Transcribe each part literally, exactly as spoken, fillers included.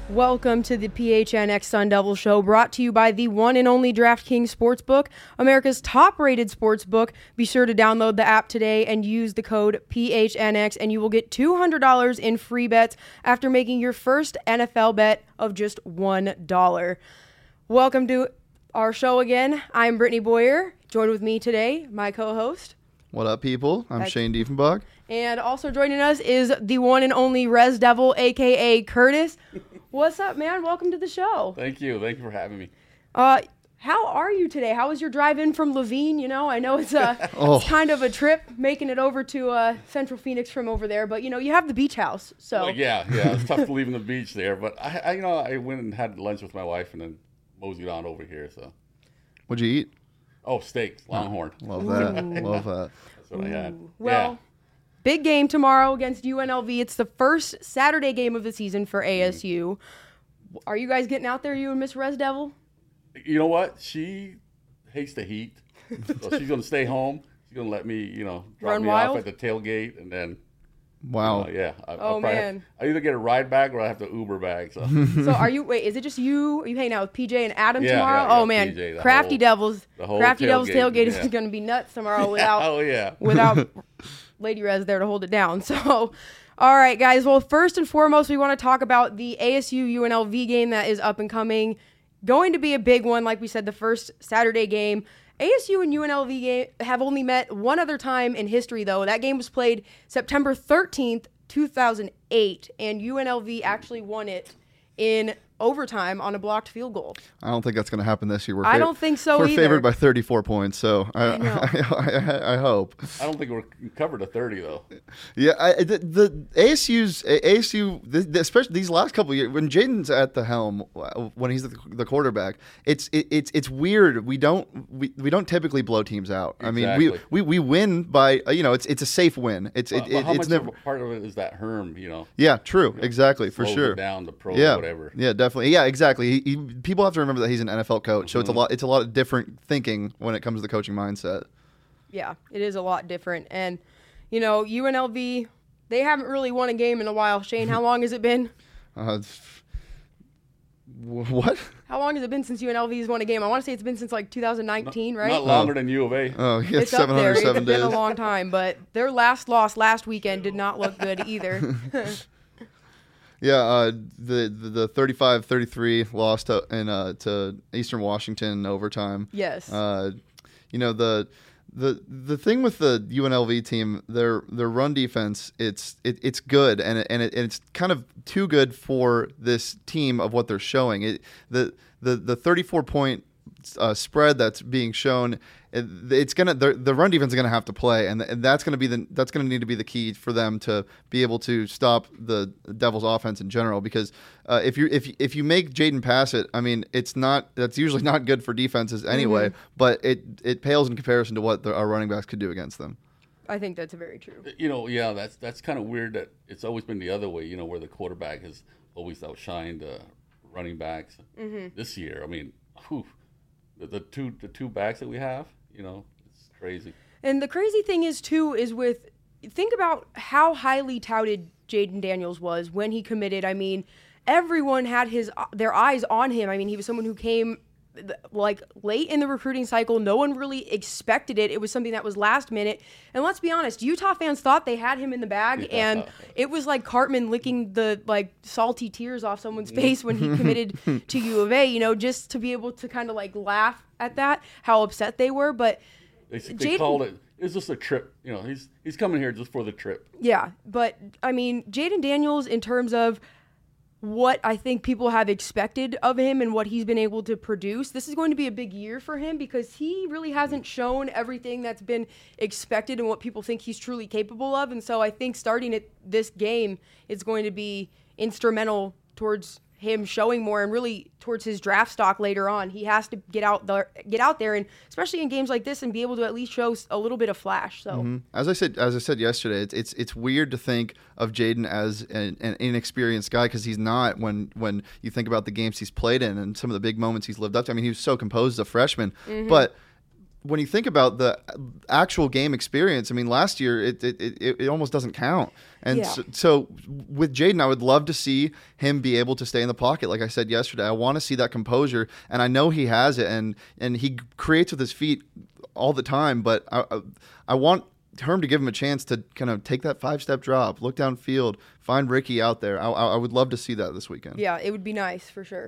Welcome to the P H N X Sun Devil Show, brought to you by the one and only DraftKings Sportsbook, America's top-rated sportsbook. Be sure to download the app today and use the code P H N X, and you will get two hundred dollars in free bets after making your first N F L bet of just one dollar. Welcome to our show again. I'm Brittany Boyer. Joined with me today, my co-host. What up, people? I'm That's- Shane Diefenbach. And also joining us is the one and only Res Devil, a k a. Curtis. What's up, man? Welcome to the show. Thank you. Thank you for having me. Uh, how are you today? How was your drive in from Levine? You know, I know it's a Oh. it's kind of a trip making it over to uh, Central Phoenix from over there, but you know, you have the beach house, so Well, yeah, yeah. It's tough leaving the beach there, but I, I, you know, I went and had lunch with my wife and then moseyed on over here. So, What'd you eat? oh, steaks, Longhorn. Love that. Love that. That's what I had. well. Yeah. Big game tomorrow against U N L V. It's the first Saturday game of the season for A S U. Are you guys getting out there, you and Miss Res Devil? You know what? She hates the heat, so she's gonna stay home. She's gonna let me, you know, drop Run me wild? off at the tailgate, and then, Wow. uh, yeah. I, Oh, I'll probably man. Have, I either get a ride back or I have to Uber back. So, So are you? Wait, is it just you? Are you hanging out with P J and Adam Yeah, tomorrow? yeah, yeah, oh man, P J, the Crafty whole- Devils. the whole Crafty Devils tailgate, tailgate is yeah. going to be nuts tomorrow without oh yeah. without Lady Res there to hold it down. So, all right, guys. Well, first and foremost, we want to talk about the A S U U N L V game that is up and coming. Going to be a big one, like we said, the first Saturday game. A S U and U N L V game have only met one other time in history, though. That game was played September thirteenth, two thousand eight, and U N L V actually won it in overtime on a blocked field goal. I don't think that's going to happen this year. We're I don't think so We're either. favored by thirty-four points, so I I know. I, I, I hope. I don't think we're covered to thirty though. Yeah, I, the, the A S U's A S U, the, the, especially these last couple of years, when Jaden's at the helm, when he's the, the quarterback, it's it, it's it's weird. We don't we, we don't typically blow teams out. I mean, we, Exactly. we we win by uh, you know it's it's a safe win. It's Well, it, well, it, how it's much never. of a part of it is that Herm? You know, Yeah, true, exactly, for slows sure. it down the pro Yeah, whatever. yeah, definitely. Yeah, exactly. He, he, people have to remember that he's an N F L coach, so it's a Mm-hmm. lot. It's a lot of different thinking when it comes to the coaching mindset. Yeah, it is a lot different. And, you know, U N L V, they haven't really won a game in a while. Shane, how long has it been? Uh, wh- what? How long has it been since U N L V has won a game? I want to say it's been since like two thousand nineteen, right? Not longer than U of A. Oh, yeah, It's up seven there. hundred It's seven been days. a long time, but their last loss last weekend did not look good either. Yeah, uh, the the the thirty-five thirty-three loss to in uh, to Eastern Washington in overtime. Yes. Uh, you know the. The the thing with the U N L V team, their their run defense, it's it, it's good, and it, and, it, and it's kind of too good for this team of what they're showing. It the the the thirty-four point uh, spread that's being shown, it, it's gonna the, the run defense is gonna have to play, and, and that's gonna be the that's gonna need to be the key for them to be able to stop the Devils' offense in general. Because uh, if you if if you make Jaden pass it, I mean, it's not that's usually not good for defenses anyway. Mm-hmm. But it it pales in comparison to what the, our running backs could do against them. I think that's very true. You know, yeah, that's that's kind of weird that it's always been the other way. You know, where the quarterback has always outshined uh, running backs. Mm-hmm. This year, I mean, whew, the, the two the two backs that we have, you know, it's crazy. And the crazy thing is, too, is with think about how highly touted Jaden Daniels was when he committed. I mean, everyone had his their eyes on him. I mean, he was someone who came like late in the recruiting cycle. No one really expected it. It was something that was last minute. And let's be honest, Utah fans thought they had him in the bag, Yeah. and it was like Cartman licking the like salty tears off someone's face when he committed to U of A, you know, just to be able to kind of like laugh at that, how upset they were. But They, they Jaden- called it. It's just a trip. You know, he's he's coming here just for the trip. yeah, but I mean, Jaden Daniels, in terms of what I think people have expected of him and what he's been able to produce, this is going to be a big year for him because he really hasn't shown everything that's been expected and what people think he's truly capable of. And so I think starting at this game is going to be instrumental towards him showing more and really towards his draft stock later on. He has to get out there, get out there, and especially in games like this, and be able to at least show a little bit of flash. So, mm-hmm. as I said, as I said yesterday, it's it's, it's weird to think of Jaden as an, an inexperienced guy because he's not. When when you think about the games he's played in and some of the big moments he's lived up to, I mean, he was so composed as a freshman, mm-hmm. but when you think about the actual game experience, I mean, last year it it, it, it almost doesn't count. And Yeah. so, so with Jaden, I would love to see him be able to stay in the pocket. Like I said yesterday, I want to see that composure, and I know he has it, and and he creates with his feet all the time. But I I, I want Herm to give him a chance to kind of take that five-step drop, look downfield, find Ricky out there. I, I would love to see that this weekend. Yeah, it would be nice for sure.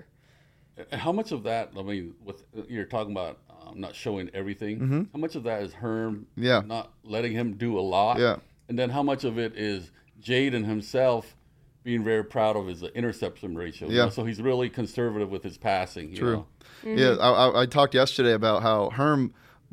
How much of that? I mean, with you're talking about um, not showing everything. Mm-hmm. How much of that is Herm? Yeah. Not letting him do a lot. Yeah. And then how much of it is Jaden himself being very proud of his interception ratio? you Yeah. know? So he's really conservative with his passing. You True. know? Mm-hmm. Yeah, I, I, I talked yesterday about how Herm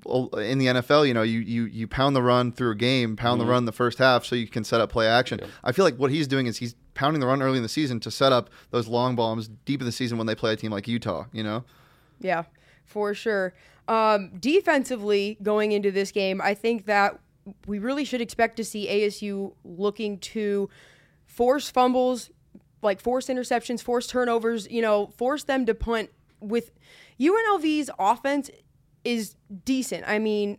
in the N F L, you know, you, you, you pound the run through a game, pound Mm-hmm. the run the first half so you can set up play action. Yeah. I feel like what he's doing is he's pounding the run early in the season to set up those long bombs deep in the season when they play a team like Utah, you know? Yeah, for sure. Um, defensively, going into this game, I think that we really should expect to see A S U looking to force fumbles, like force interceptions, force turnovers, you know, force them to punt. With U N L V's offense is decent. I mean,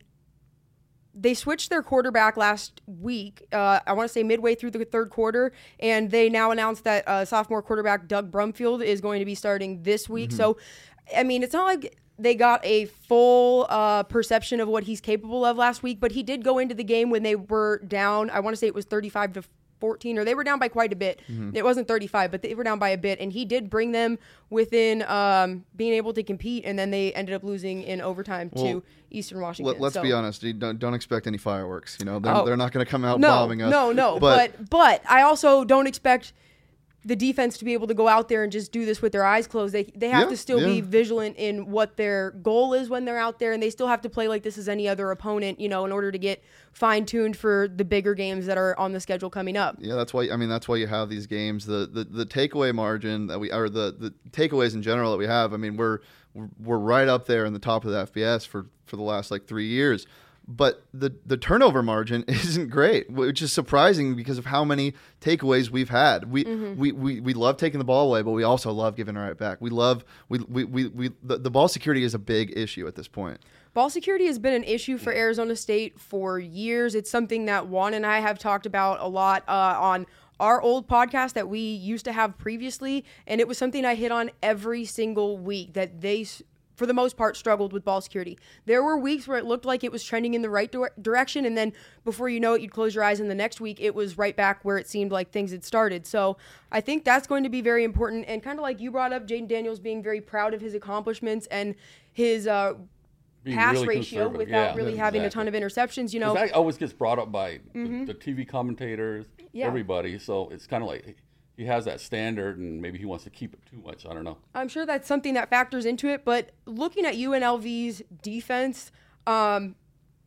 they switched their quarterback last week, uh, I want to say midway through the third quarter, and they now announced that uh, sophomore quarterback Doug Brumfield is going to be starting this week. Mm-hmm. So, I mean, it's not like they got a full uh, perception of what he's capable of last week, but he did go into the game when they were down, I want to say it was thirty-five to fourteen, or they were down by quite a bit. Mm-hmm. It wasn't thirty-five, but they were down by a bit, and he did bring them within um, being able to compete, and then they ended up losing in overtime Well, to Eastern Washington. Let, let's So- be honest. You don't, don't expect any fireworks. You know, they're, Oh. they're not going to come out no, bombing us. No, no, But, but, but I also don't expect the defense to be able to go out there and just do this with their eyes closed. They they have Yeah, to still be yeah. vigilant in what their goal is when they're out there, and they still have to play like this is any other opponent, you know, in order to get fine-tuned for the bigger games that are on the schedule coming up. yeah, that's why. I mean, that's why you have these games. The the, the takeaway margin that we, or the, the takeaways in general that we have. I mean, we're we're right up there in the top of the F B S for, for the last like three years. But the the turnover margin isn't great, which is surprising because of how many takeaways we've had. We Mm-hmm. we, we, we love taking the ball away, but we also love giving it right back. We love we we, we, we the, the ball security is a big issue at this point. Ball security has been an issue for Arizona State for years. It's something that Juan and I have talked about a lot uh, on our old podcast that we used to have previously, and it was something I hit on every single week, that they, s- for the most part, struggled with ball security. There were weeks where it looked like it was trending in the right dir- direction, and then before you know it, you'd close your eyes, and the next week it was right back where it seemed like things had started. So I think that's going to be very important, and kind of like you brought up, Jaden Daniels being very proud of his accomplishments and his uh, Being pass really ratio conservative. without Yeah, really having a ton exactly. of interceptions. You know, That always gets brought up by the, the T V commentators, Yeah. everybody. So it's kind of like he has that standard, and maybe he wants to keep it too much. I don't know. I'm sure that's something that factors into it. But looking at U N L V's defense, um,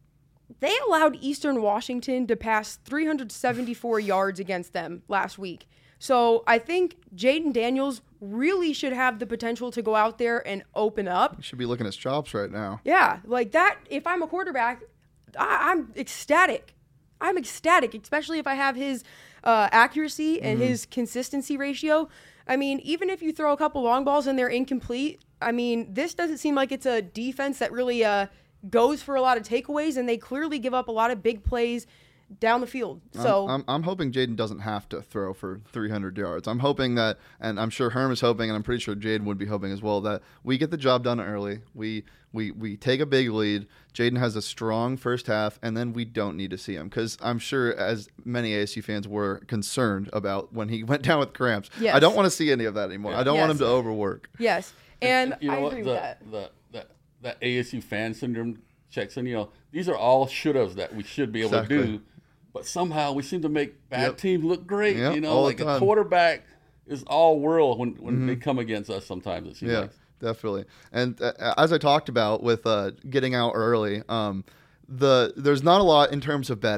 they allowed Eastern Washington to pass three hundred seventy-four yards against them last week. So I think Jaden Daniels really should have the potential to go out there and open up. You should be looking at his chops right now. Yeah, like that. If I'm a quarterback, I, I'm ecstatic. I'm ecstatic, especially if I have his uh, accuracy and his consistency ratio. I mean, even if you throw a couple long balls and they're incomplete, I mean, this doesn't seem like it's a defense that really uh, goes for a lot of takeaways, and they clearly give up a lot of big plays down the field. So I'm, I'm, I'm hoping Jaden doesn't have to throw for three hundred yards. I'm hoping that, and I'm sure Herm is hoping, and I'm pretty sure Jaden would be hoping as well, that we get the job done early. We we we take a big lead. Jaden has a strong first half, and then we don't need to see him, because I'm sure, as many A S U fans were concerned about when he went down with cramps. Yes. I don't want to see any of that anymore. I don't want him Yes. to overwork. yes, and you know I what? agree the, with that. The, the, that A S U fan syndrome checks in. You know, these are all should-haves that we should be able Exactly. to do, but somehow we seem to make bad Yep. teams look great. Yep, you know, all the like a time. quarterback is all world when, when they come against us. Sometimes it seems Yeah, like. definitely. And uh, as I talked about with uh, getting out early, um, the there's not a lot in terms of betting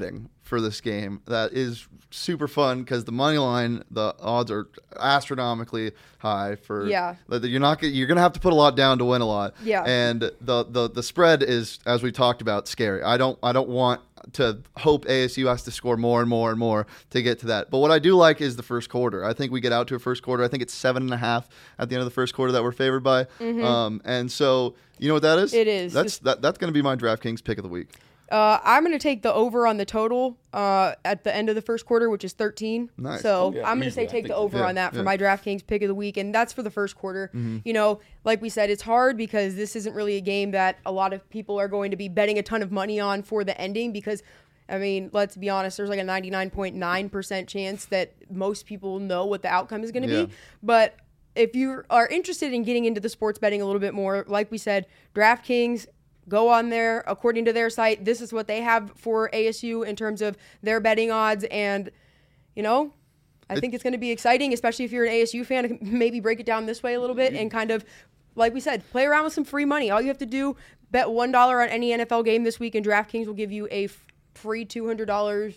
for this game that is super fun because the money line, the odds are astronomically high for. Yeah. That you're not you're gonna have to put a lot down to win a lot. Yeah. And the the the spread is, as we talked about, scary. I don't I don't want to hope A S U has to score more and more and more to get to that. But what I do like is the first quarter. I think we get out to a first quarter. I think it's seven and a half at the end of the first quarter that we're favored by. Mm-hmm. Um, and so you know what that is? It is. That's that, that's going to be my DraftKings pick of the week. Uh, I'm going to take the over on the total uh, at the end of the first quarter, which is thirteen. Nice. So Oh, yeah, I'm going to easily. say I take the think- over yeah, on that for yeah. my DraftKings pick of the week, and that's for the first quarter. You know, like we said, it's hard because this isn't really a game that a lot of people are going to be betting a ton of money on for the ending because, I mean, let's be honest, there's like a ninety-nine point nine percent chance that most people know what the outcome is going to Yeah. be. But if you are interested in getting into the sports betting a little bit more, like we said, DraftKings, go on there. According to their site, this is what they have for A S U in terms of their betting odds. And, you know, I think it's going to be exciting, especially if you're an A S U fan, maybe break it down this way a little bit and kind of, like we said, play around with some free money. All you have to do, bet one dollar on any N F L game this week, and DraftKings will give you a f- free two hundred dollars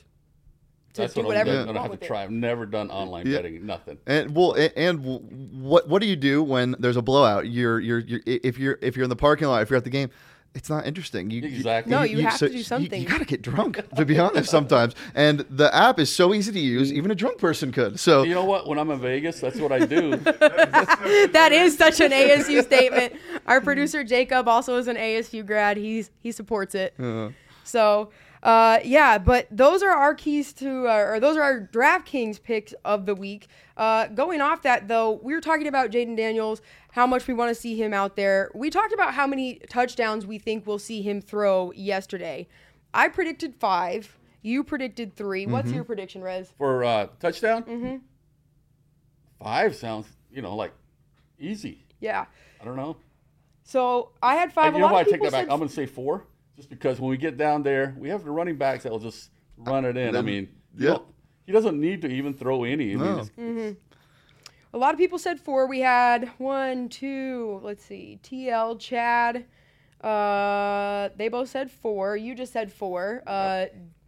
to That's do what whatever I'm you gonna want have with to it. try. I've never done online Yeah. betting, nothing. And well, and, and what what do you do when there's a blowout? You're you're you're if you're if you're in the parking lot, if you're at the game, it's not interesting. You, Exactly. No, you have to do you- something. You, got to get drunk, to be honest, sometimes. And the app is so easy to use, even a drunk person could. So You know what? When I'm in Vegas, that's what I do. That is such an A S U statement. Our producer Jacob also is an A S U grad. He's he supports it. uh, So, uh, yeah, but those are our keys to, uh, or those are our DraftKings picks of the week. Uh, going off that, though, we were talking about Jaden Daniels, how much we want to see him out there. We talked about how many touchdowns we think we'll see him throw yesterday. I predicted five. You predicted three. What's your prediction, Rez? For uh, touchdown, mm-hmm. five sounds, you know, like easy. Yeah. I don't know. So I had five. And A you know lot what? I of take people that back. said I'm going to say four, just because when we get down there, we have the running backs that will just run it in. I Then- mean, you yeah. know, he doesn't need to even throw any. I mean, No. it's- it's- A lot of people said four. We had one, two, let's see, T L, Chad. Uh, they both said four. You just said four. Uh,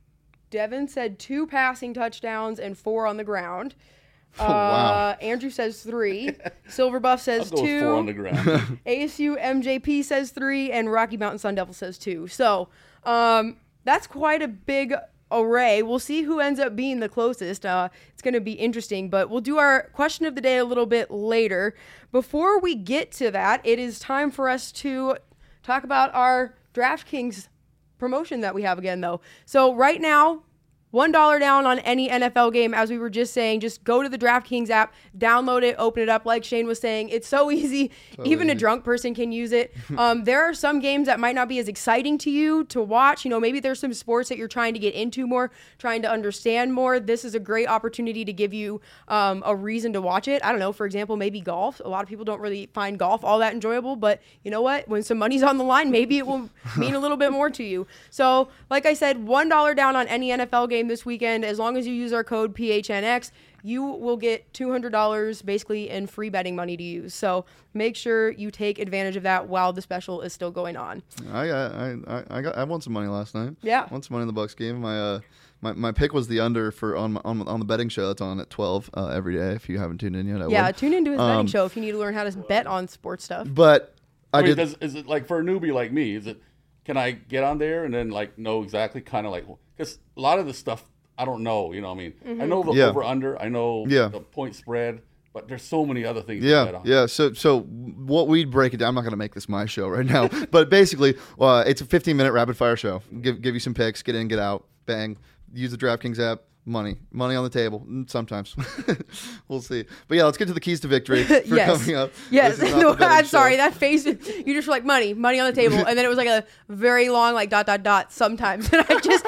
Devin said two passing touchdowns and four on the ground. Oh, wow. Uh, Andrew says three. Silverbuff says I'll go with four on the two. ground. A S U M J P says three, and Rocky Mountain Sun Devil says two. So um, that's quite a big array. We'll see who ends up being the closest. Uh, it's going to be interesting, but we'll do our question of the day a little bit later. Before we get to that, it is time for us to talk about our DraftKings promotion that we have again, though. So right now, one dollar down on any N F L game, as we were just saying. Just go to the DraftKings app, download it, open it up. Like Shane was saying, it's so easy. Even a easy. drunk person can use it. Um, there are some games that might not be as exciting to you to watch. You know, maybe there's some sports that you're trying to get into more, trying to understand more. This is a great opportunity to give you um, a reason to watch it. I don't know, for example, maybe golf. A lot of people don't really find golf all that enjoyable, but you know what? When some money's on the line, maybe it will mean a little bit more to you. So, like I said, one dollar down on any N F L game this weekend. As long as you use our code P H N X, you will get two hundred dollars basically in free betting money to use. So make sure you take advantage of that while the special is still going on. I got I, I I got I won some money last night. Yeah. Won some money in the Bucks game. My uh my, my pick was the under for on my, on on the betting show that's on at twelve uh, every day. If you haven't tuned in yet, I Yeah, would. tune into his betting Um, show if you need to learn how to bet on sports stuff. But I, I mean, did. does, is it like for a newbie like me? Is it? Can I get on there and then like know exactly kind of like because a lot of the stuff I don't know. You know, what I mean, Mm-hmm. I know the Yeah. over under, I know Yeah. the point spread, but there's so many other things. to Yeah, bet on. yeah. So, so what we break it down. I'm not going to make this my show right now, but basically, uh, it's a fifteen minute rapid fire show. Give give you some picks, get in, get out, bang. Use the DraftKings app. Money, money on the table. Mm, Sometimes, we'll see. But yeah, let's get to the keys to victory for Yes. coming up. Yes, This is not the betting I'm sorry. show. That face, you just were like money, money on the table, and then it was like a very long, like dot dot dot. Sometimes, and I just,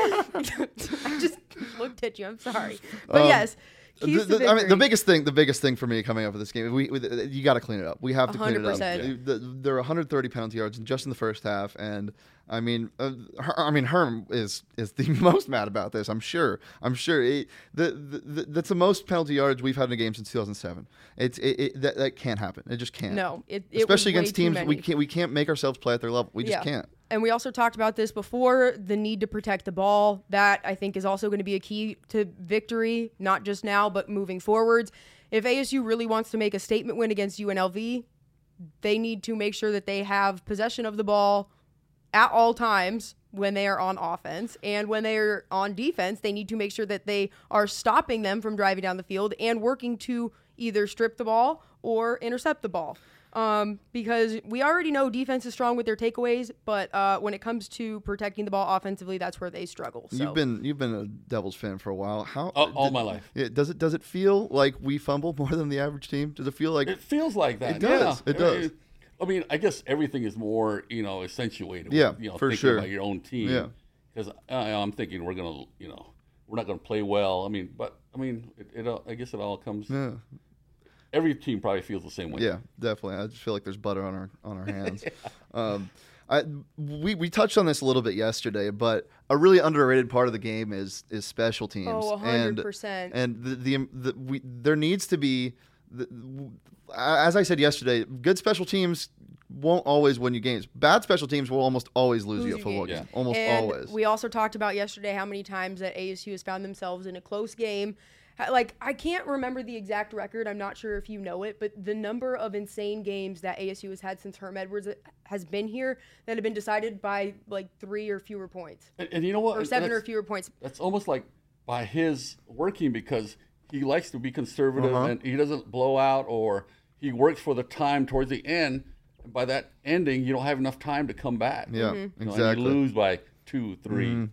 I just looked at you. I'm sorry, but Um, yes, keys The- to the- I mean, the victory. biggest thing, the biggest thing for me coming up with this game, we, we you got to clean it up. We have to clean it one up. hundred percent. The- the- there are one hundred thirty penalty yards just in the first half, and I mean, uh, Her- I mean, Herm is is the most mad about this. I'm sure. I'm sure. It, the, the, the that's the most penalty yards we've had in a game since two thousand seven. It's it, it that, that can't happen. It just can't. No, it, it Especially was way against too teams many. we can't we can't make ourselves play at their level. We just Yeah. can't. and we also talked about this before, the need to protect the ball. That, I think, is also going to be a key to victory, not just now, but moving forwards. If A S U really wants to make a statement win against U N L V, they need to make sure that they have possession of the ball at all times when they are on offense. And when they are on defense, they need to make sure that they are stopping them from driving down the field and working to either strip the ball or intercept the ball. Um, because we already know defense is strong with their takeaways, but uh, when it comes to protecting the ball offensively, that's where they struggle. So. You've been you've been a Devils fan for a while. How all, all did, my life. It, does it does it feel like we fumble more than the average team? Does it feel like It feels like that. It does. Yeah. It does. I mean, I guess everything is more, you know, accentuated. Yeah, with, you know, for thinking sure. about your own team. Yeah. Because I'm thinking we're gonna, you know, we're not gonna play well. I mean, but I mean, it, it all, I guess it all comes. Yeah. Every team probably feels the same way. Yeah, definitely. I just feel like there's butter on our on our hands. yeah. um, I, we we touched on this a little bit yesterday, but a really underrated part of the game is is special teams. Oh, one hundred percent. And, and the, the, the we there needs to be, the, as I said yesterday, good special teams won't always win you games. Bad special teams will almost always lose, Lose you a you football games. game. Almost and always. We also talked about yesterday how many times that A S U has found themselves in a close game. Like, I can't remember the exact record. I'm not sure if you know it, but the number of insane games that A S U has had since Herm Edwards has been here that have been decided by, like, three or fewer points. And, and you know what? Or seven That's- or fewer points. That's almost like by his working because he likes to be conservative Uh-huh. and he doesn't blow out, or he works for the time towards the end. And by that ending, you don't have enough time to come back. Yeah, You know, exactly. and you lose by two, three. Mm-hmm.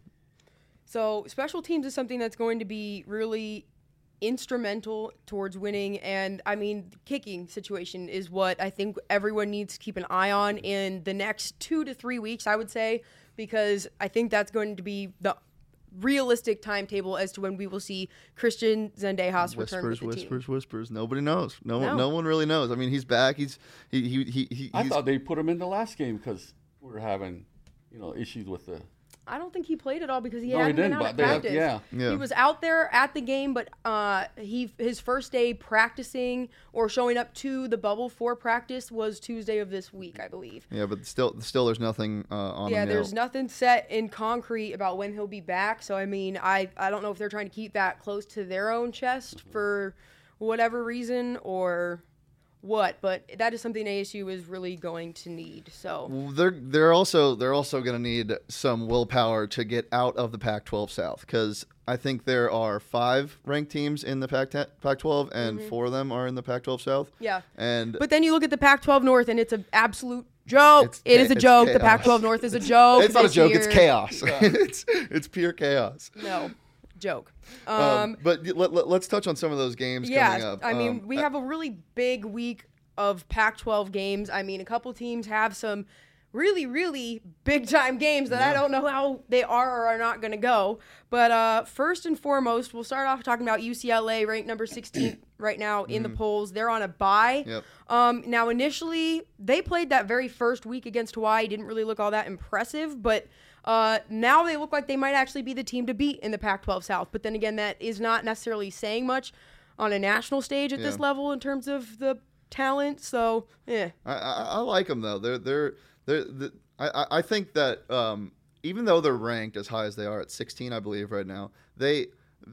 So special teams is something that's going to be really instrumental towards winning. And I mean, the kicking situation is what I think everyone needs to keep an eye on in the next two to three weeks, I would say, because I think that's going to be the realistic timetable as to when we will see Christian Zendejas return with Whispers, the whispers, team. whispers. Nobody knows. No, No. one, no one really knows. I mean, he's back. He's he he he. he I he's, thought they put him in the last game because we were having, you know, issues with the. I don't think he played at all because he No, he hadn't been didn't, out but at they had- practice. yeah. Yeah. He was out there at the game, but uh, he his first day practicing or showing up to the bubble for practice was Tuesday of this week, I believe. Yeah, but still, still, there's nothing uh, on Yeah, him there's yet. nothing set in concrete about when he'll be back. So I mean, I I don't know if they're trying to keep that close to their own chest for whatever reason or what, but that is something A S U is really going to need. So Well, They're they're also they're also going to need some willpower to get out of the Pac twelve South because I think there are five ranked teams in the Pac Pac twelve and four of them are in the Pac twelve South. yeah. And But then you look at the Pac twelve North, and it's an absolute joke. It's It cha- is a it's joke. The chaos. Pac twelve North is a joke. it's not a this joke. It's year. chaos. it's it's pure chaos. No, joke. Um, Um, but let, let, let's touch on some of those games coming yeah, up. I mean, Um, we have a really big week of Pac twelve games. I mean, a couple teams have some really, really big time games that I don't know how they are or are not going to go. But uh, first and foremost, we'll start off talking about U C L A, ranked number sixteen right now in the polls. They're on a bye. Yep. Um, now, initially, they played that very first week against Hawaii. Didn't really look all that impressive, but uh, now they look like they might actually be the team to beat in the Pac twelve South. But then again, that is not necessarily saying much on a national stage at this Yeah. level in terms of the talent. So, yeah. I, I, I like them though. They're they're they're. The, I I- I think that um, even though they're ranked as high as they are at sixteen, I believe right now, they.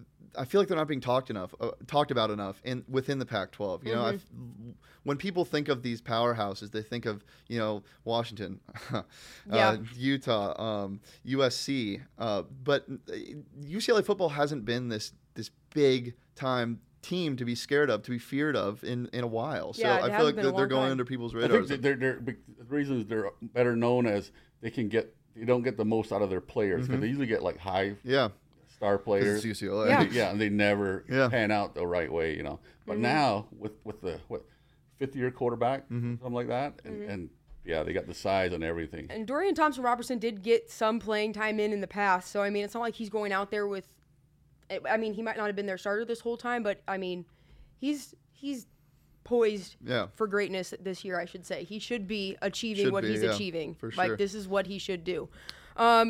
I feel like they're not being talked enough, uh, talked about enough in within the Pac twelve. You know, I've, when people think of these powerhouses, they think of you know Washington, uh, Yeah. Utah, um, U S C, uh, but U C L A football hasn't been this this big time team to be scared of, to be feared of in, in a while. So Yeah, it I feel hasn't like been a they're, they're long going time. under people's I radars. think they're, they're, the reason is they're better known as they can get, they don't get the most out of their players because they usually get like high yeah, star 'cause players. it's U C L A. Yeah. Yeah, and they never Yeah. pan out the right way, you know. But now with with the what fifth year quarterback, something like that, and, and yeah, they got the size and everything. And Dorian Thompson Robertson did get some playing time in in the past. So, I mean, it's not like he's going out there with, I mean, he might not have been their starter this whole time, but I mean, he's he's poised Yeah. for greatness this year, I should say. He should be achieving Should what be, he's yeah, achieving. for Like, sure. this is what he should do. Um,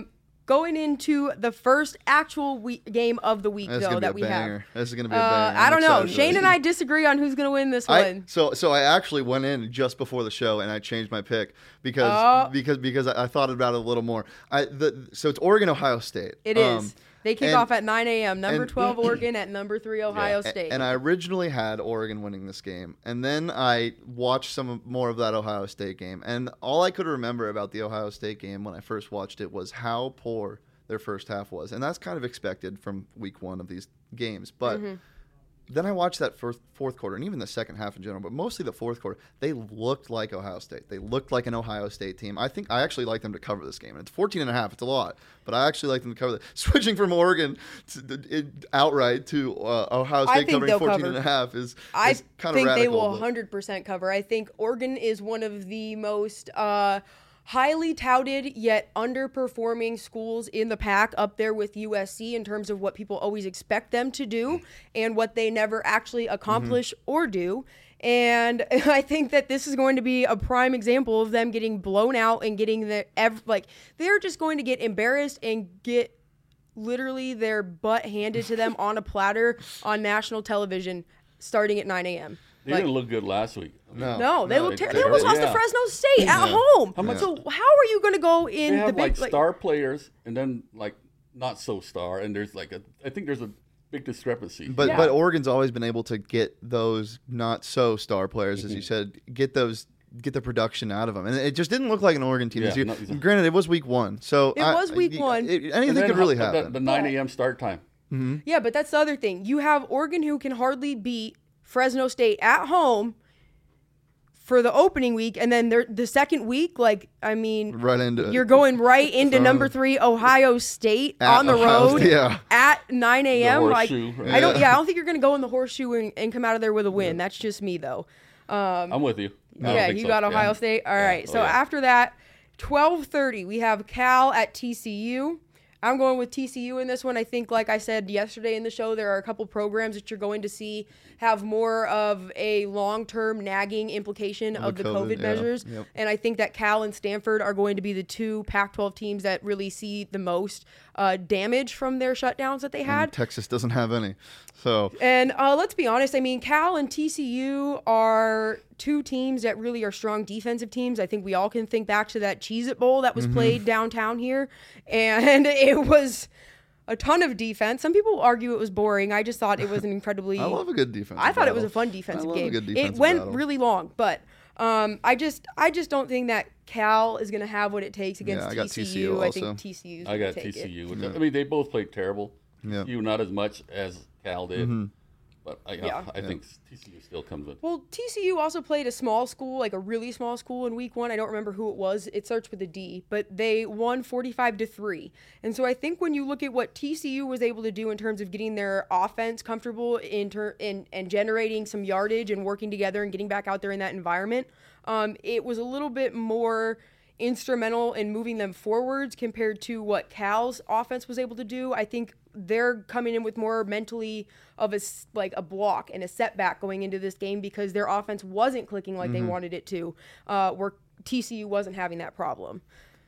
going into the first actual week, game of the week, That's though, gonna that be a we banger. have. This is gonna be a Uh, banger. I I'm don't know. excited for Shane this. and I disagree on who's going to win this I, one. so so I actually went in just before the show and I changed my pick because Oh. because because I, I thought about it a little more. I the so it's Oregon Ohio State. It Um, is. They kick and- off at nine a.m. Number and- twelve Oregon at number three Ohio Yeah. State. And I originally had Oregon winning this game, and then I watched some of- more of that Ohio State game, and all I could remember about the Ohio State game when I first watched it was how poor their first half was, and that's kind of expected from week one of these games. But Mm-hmm. then I watched that first, fourth quarter, and even the second half in general, but mostly the fourth quarter. They looked like Ohio State. They looked like an Ohio State team. I think I actually like them to cover this game. And it's fourteen and a half. It's a lot, but I actually like them to cover that. Switching from Oregon to, it, outright to uh, Ohio I State think covering they'll fourteen cover. and a half is, I is kind of think radical. they will but- one hundred percent cover. I think Oregon is one of the most uh, highly touted yet underperforming schools in the pack, up there with U S C in terms of what people always expect them to do and what they never actually accomplish Mm-hmm. or do. And I think that this is going to be a prime example of them getting blown out and getting the ev- like they're just going to get embarrassed and get literally their butt handed to them on a platter on national television starting at nine a.m. They Like, didn't look good last week. I mean, No. no, they No, look it's terrible. They almost lost to Yeah. Fresno State at Yeah. home. How much- So how are you going to go in They the have big like like, star players and then like not so star, and there's like a I think there's a big discrepancy. But Yeah. but Oregon's always been able to get those not so star players, Mm-hmm. as you said, get those get the production out of them, and it just didn't look like an Oregon team Yeah, this year. no, exactly. Granted, it was week one, so It I- was week I- one. it- And anything then could really how- happen. The, the nine a.m. start time. Yeah, but that's the other thing. You have Oregon who can hardly beat Fresno State at home for the opening week, and then they're, the second week, like, I mean, right into it. you're going right into Uh, number three Ohio State At on the Ohio road State, yeah. at nine a.m. Like, horseshoe, right? I don't, yeah, I don't think you're going to go in the horseshoe and, and come out of there with a win. That's just me, though. Um, I'm with you. I don't yeah, think you so. got Yeah. Ohio State. All Yeah. right. Oh, So yeah. after that, twelve thirty, we have Cal at T C U. I'm going with T C U in this one. I think, like I said yesterday in the show, there are a couple programs that you're going to see have more of a long-term nagging implication of the the COVID, COVID, yeah. measures. Yep. And I think that Cal and Stanford are going to be the two Pac twelve teams that really see the most uh, damage from their shutdowns that they had. And Texas doesn't have any, so And uh, let's be honest. I mean, Cal and T C U are two teams that really are strong defensive teams. I think we all can think back to that Cheez-It Bowl that was Mm-hmm. played downtown here. And it was a ton of defense. Some people argue it was boring. I just thought it was an incredibly... I love a good defense. I thought it was a fun defensive I love game. a good It defensive went battle. really long, but... Um, I just, I just don't think that Cal is going to have what it takes against Yeah, I got T C U. T C U I also. think T C U. I got T C U. Which, I mean, they both played terrible. Yeah. T C U not as much as Cal did, Mm-hmm. but I, Yeah. I think T C U still comes in. Well, T C U also played a small school, like a really small school in week one. I don't remember who it was. It starts with a D, but they won forty-five to three. And so I think when you look at what T C U was able to do in terms of getting their offense comfortable in ter- in, and generating some yardage and working together and getting back out there in that environment, um, it was a little bit more instrumental in moving them forwards compared to what Cal's offense was able to do. I think they're coming in with more mentally of a s- like a block and a setback going into this game because their offense wasn't clicking like they wanted it to, uh, where T C U wasn't having that problem.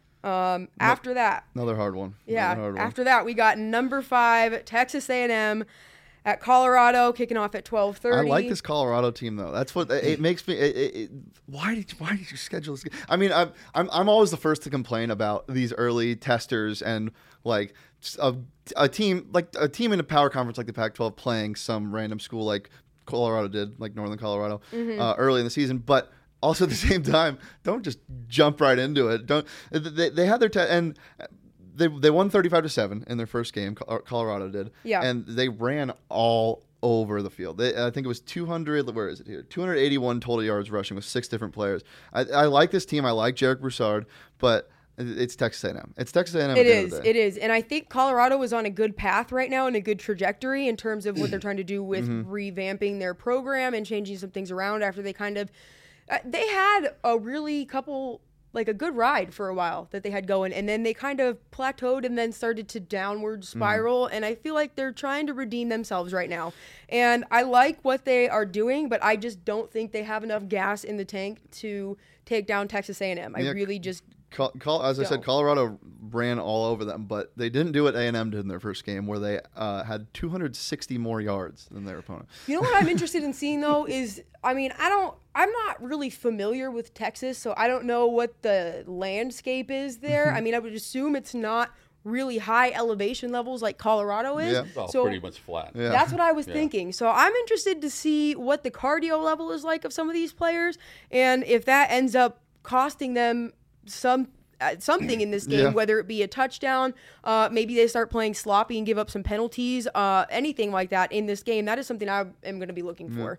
Um, after that, Another hard one. yeah, Another hard one. after that we got number five Texas A and M at Colorado, kicking off at twelve thirty. I like this Colorado team though. That's what it makes me. It, it, it, why did you, why did you schedule this? I mean, I'm I'm I'm always the first to complain about these early testers and like a, a team like a team in a power conference like the Pac twelve playing some random school like Colorado did, like Northern Colorado, Mm-hmm. uh, early in the season, but. Also, at the same time, don't just jump right into it. Don't they? They had their te- and they they won thirty-five to seven in their first game. Col- Colorado did. Yeah. And they ran all over the field. They, I think it was two hundred. Where is it here? two hundred eighty-one total yards rushing with six different players. I, I like this team. I like Jarek Broussard, but it's Texas A and M. It's Texas A and M. It is. It is. And I think Colorado is on a good path right now and a good trajectory in terms of what they're trying to do with revamping their program and changing some things around after they kind of uh, they had a really couple like a good ride for a while that they had going, and then they kind of plateaued and then started to downward spiral. And I feel like they're trying to redeem themselves right now. And I like what they are doing, but I just don't think they have enough gas in the tank to take down Texas A and M. I Yeah. really just Col- Col- as I said, Don't. Colorado ran all over them, but they didn't do what A and M did in their first game, where they uh, had two hundred sixty more yards than their opponent. You know what I'm interested in seeing though is, I mean, I don't, I'm not really familiar with Texas, so I don't know what the landscape is there. I mean, I would assume it's not really high elevation levels like Colorado is. Yeah. It's all So pretty much flat. Yeah. that's what I was Yeah. thinking. So I'm interested to see what the cardio level is like of some of these players, and if that ends up costing them some uh, something in this game, Yeah. whether it be a touchdown, uh, maybe they start playing sloppy and give up some penalties, uh, anything like that in this game. That is something I am going to be looking for.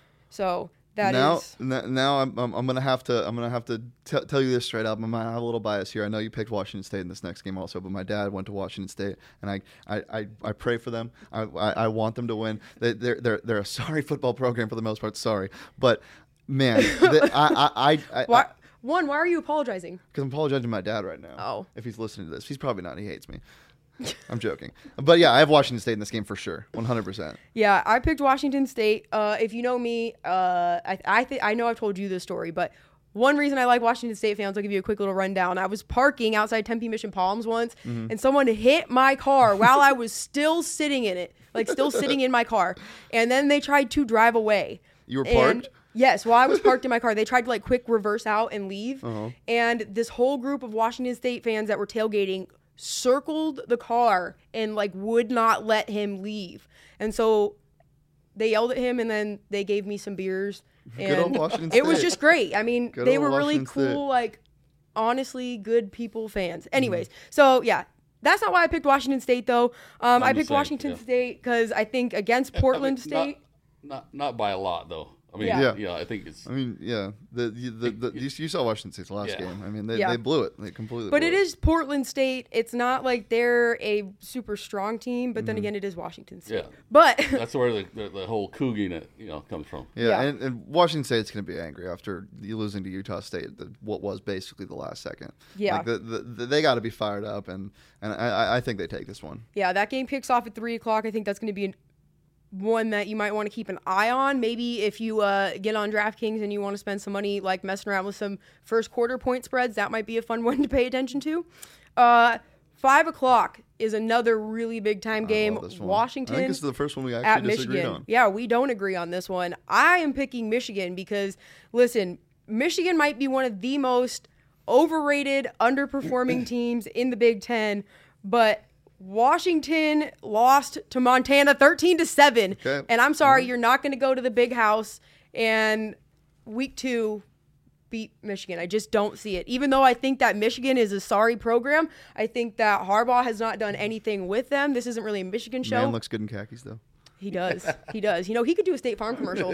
So that now, is n- now I'm, I'm I'm gonna have to I'm gonna have to t- tell you this straight up. I'm gonna have a little bias here. I know you picked Washington State in this next game also, but my dad went to Washington State, and I I, I, I pray for them. I, I I want them to win. They they're they're they're a sorry football program for the most part. Sorry, but man, the, I I I. I why, one. Why are you apologizing? Because I'm apologizing to my dad right now. Oh. If he's listening to this. He's probably not. He hates me. I'm joking. But yeah, I have Washington State in this game for sure. one hundred percent. Yeah, I picked Washington State. Uh, if you know me, uh, I I, th- I know I've told you this story, but one reason I like Washington State fans, I'll give you a quick little rundown. I was parking outside Tempe Mission Palms once, Mm-hmm. and someone hit my car while I was still sitting in it, like still sitting in my car. And then they tried to drive away. You were And- parked? Yes, while I was parked in my car, they tried to like quick reverse out and leave. Uh-huh. And this whole group of Washington State fans that were tailgating circled the car and like would not let him leave. And so they yelled at him, and then they gave me some beers. Good And old Washington it was State. just great. I mean, Good they old were really Washington cool, State. like honestly good people fans. Anyways, so yeah. That's not why I picked Washington State, though. Um, I'm I the picked same, Washington yeah. State because I think against I mean, Portland not- State. Not, not by a lot though. I mean, Yeah. yeah, I think it's I mean, yeah. The the, the, the you, you saw Washington State's last Yeah. game. I mean, they, Yeah. they blew it. They completely. But blew it is Portland State. It's not like they're a super strong team, but Mm-hmm. then again, it is Washington State. Yeah. But that's where the, the, the whole Cougar, you know, comes from. Yeah, Yeah. And, and Washington State's going to be angry after you losing to Utah State, the, what was basically the last second. Yeah. Like the, the, the, they got to be fired up, and and I, I think they take this one. yeah, that game kicks off at three o'clock. I think that's going to be an, one that you might want to keep an eye on. Maybe if you uh, get on DraftKings and you want to spend some money, like messing around with some first quarter point spreads, that might be a fun one to pay attention to. Uh, five o'clock is another really big time game. I love this one. Washington I think this is the first one we at actually disagreed Michigan. on. Yeah, we don't agree on this one. I am picking Michigan because, listen, Michigan might be one of the most overrated, underperforming teams in the Big Ten, but Washington lost to Montana thirteen to seven. Okay. And I'm sorry, you're not going to go to the big house and week two beat Michigan. I just don't see it. Even though I think that Michigan is a sorry program, I think that Harbaugh has not done anything with them. This isn't really a Michigan show. Man looks good in khakis though. He does. He does. You know, he could do a State Farm commercial.